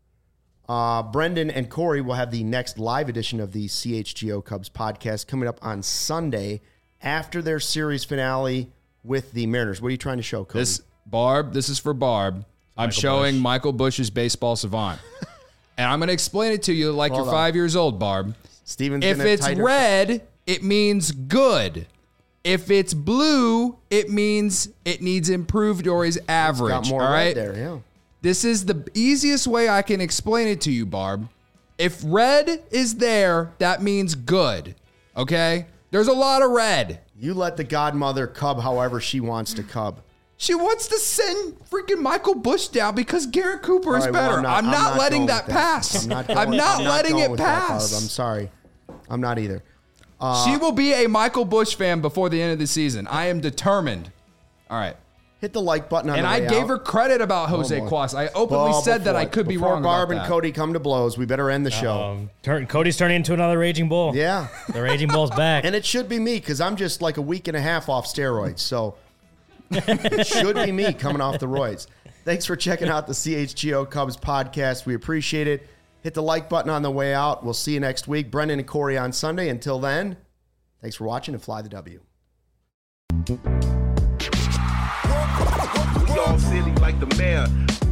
uh, Brendan and Corey will have the next live edition of the C H G O Cubs podcast coming up on Sunday after their series finale with the Mariners. What are you trying to show, Cody? This Barb, this is for Barb. I'm Michael showing Bush. Michael Bush's baseball savant. And I'm going to explain it to you like Hold you're on. five years old, Barb. Steven's If gonna it's tighter- red, it means good. If it's blue, it means it needs improved or is average. got more all red right? there, yeah. This is the easiest way I can explain it to you, Barb. If red is there, that means good. Okay? There's a lot of red. You let the godmother cub however she wants to cub. She wants to send freaking Michael Bush down because Garrett Cooper is All right, well, better. I'm not, I'm I'm not not letting going that with pass. I'm not, going, I'm not I'm letting going it with that, pass. Barb. I'm sorry. I'm not either. Uh, She will be a Michael Bush fan before the end of the season. I am determined. All right. hit the like button on And the I way gave out. her credit about Jose boy. Cuas. I openly Well, said that before- I could be before wrong Barb about and that. Cody come to blows, we better end the show. Um, turn, Cody's turning into another Raging Bull. Yeah. The Raging Bull's back. And it should be me because I'm just like a week and a half off steroids. So it should be me coming off the roids. Thanks for checking out the C H G O Cubs podcast. We appreciate it. Hit the like button on the way out. We'll see you next week. Brendan and Corey on Sunday. Until then, thanks for watching and fly the W. We all silly like the mayor.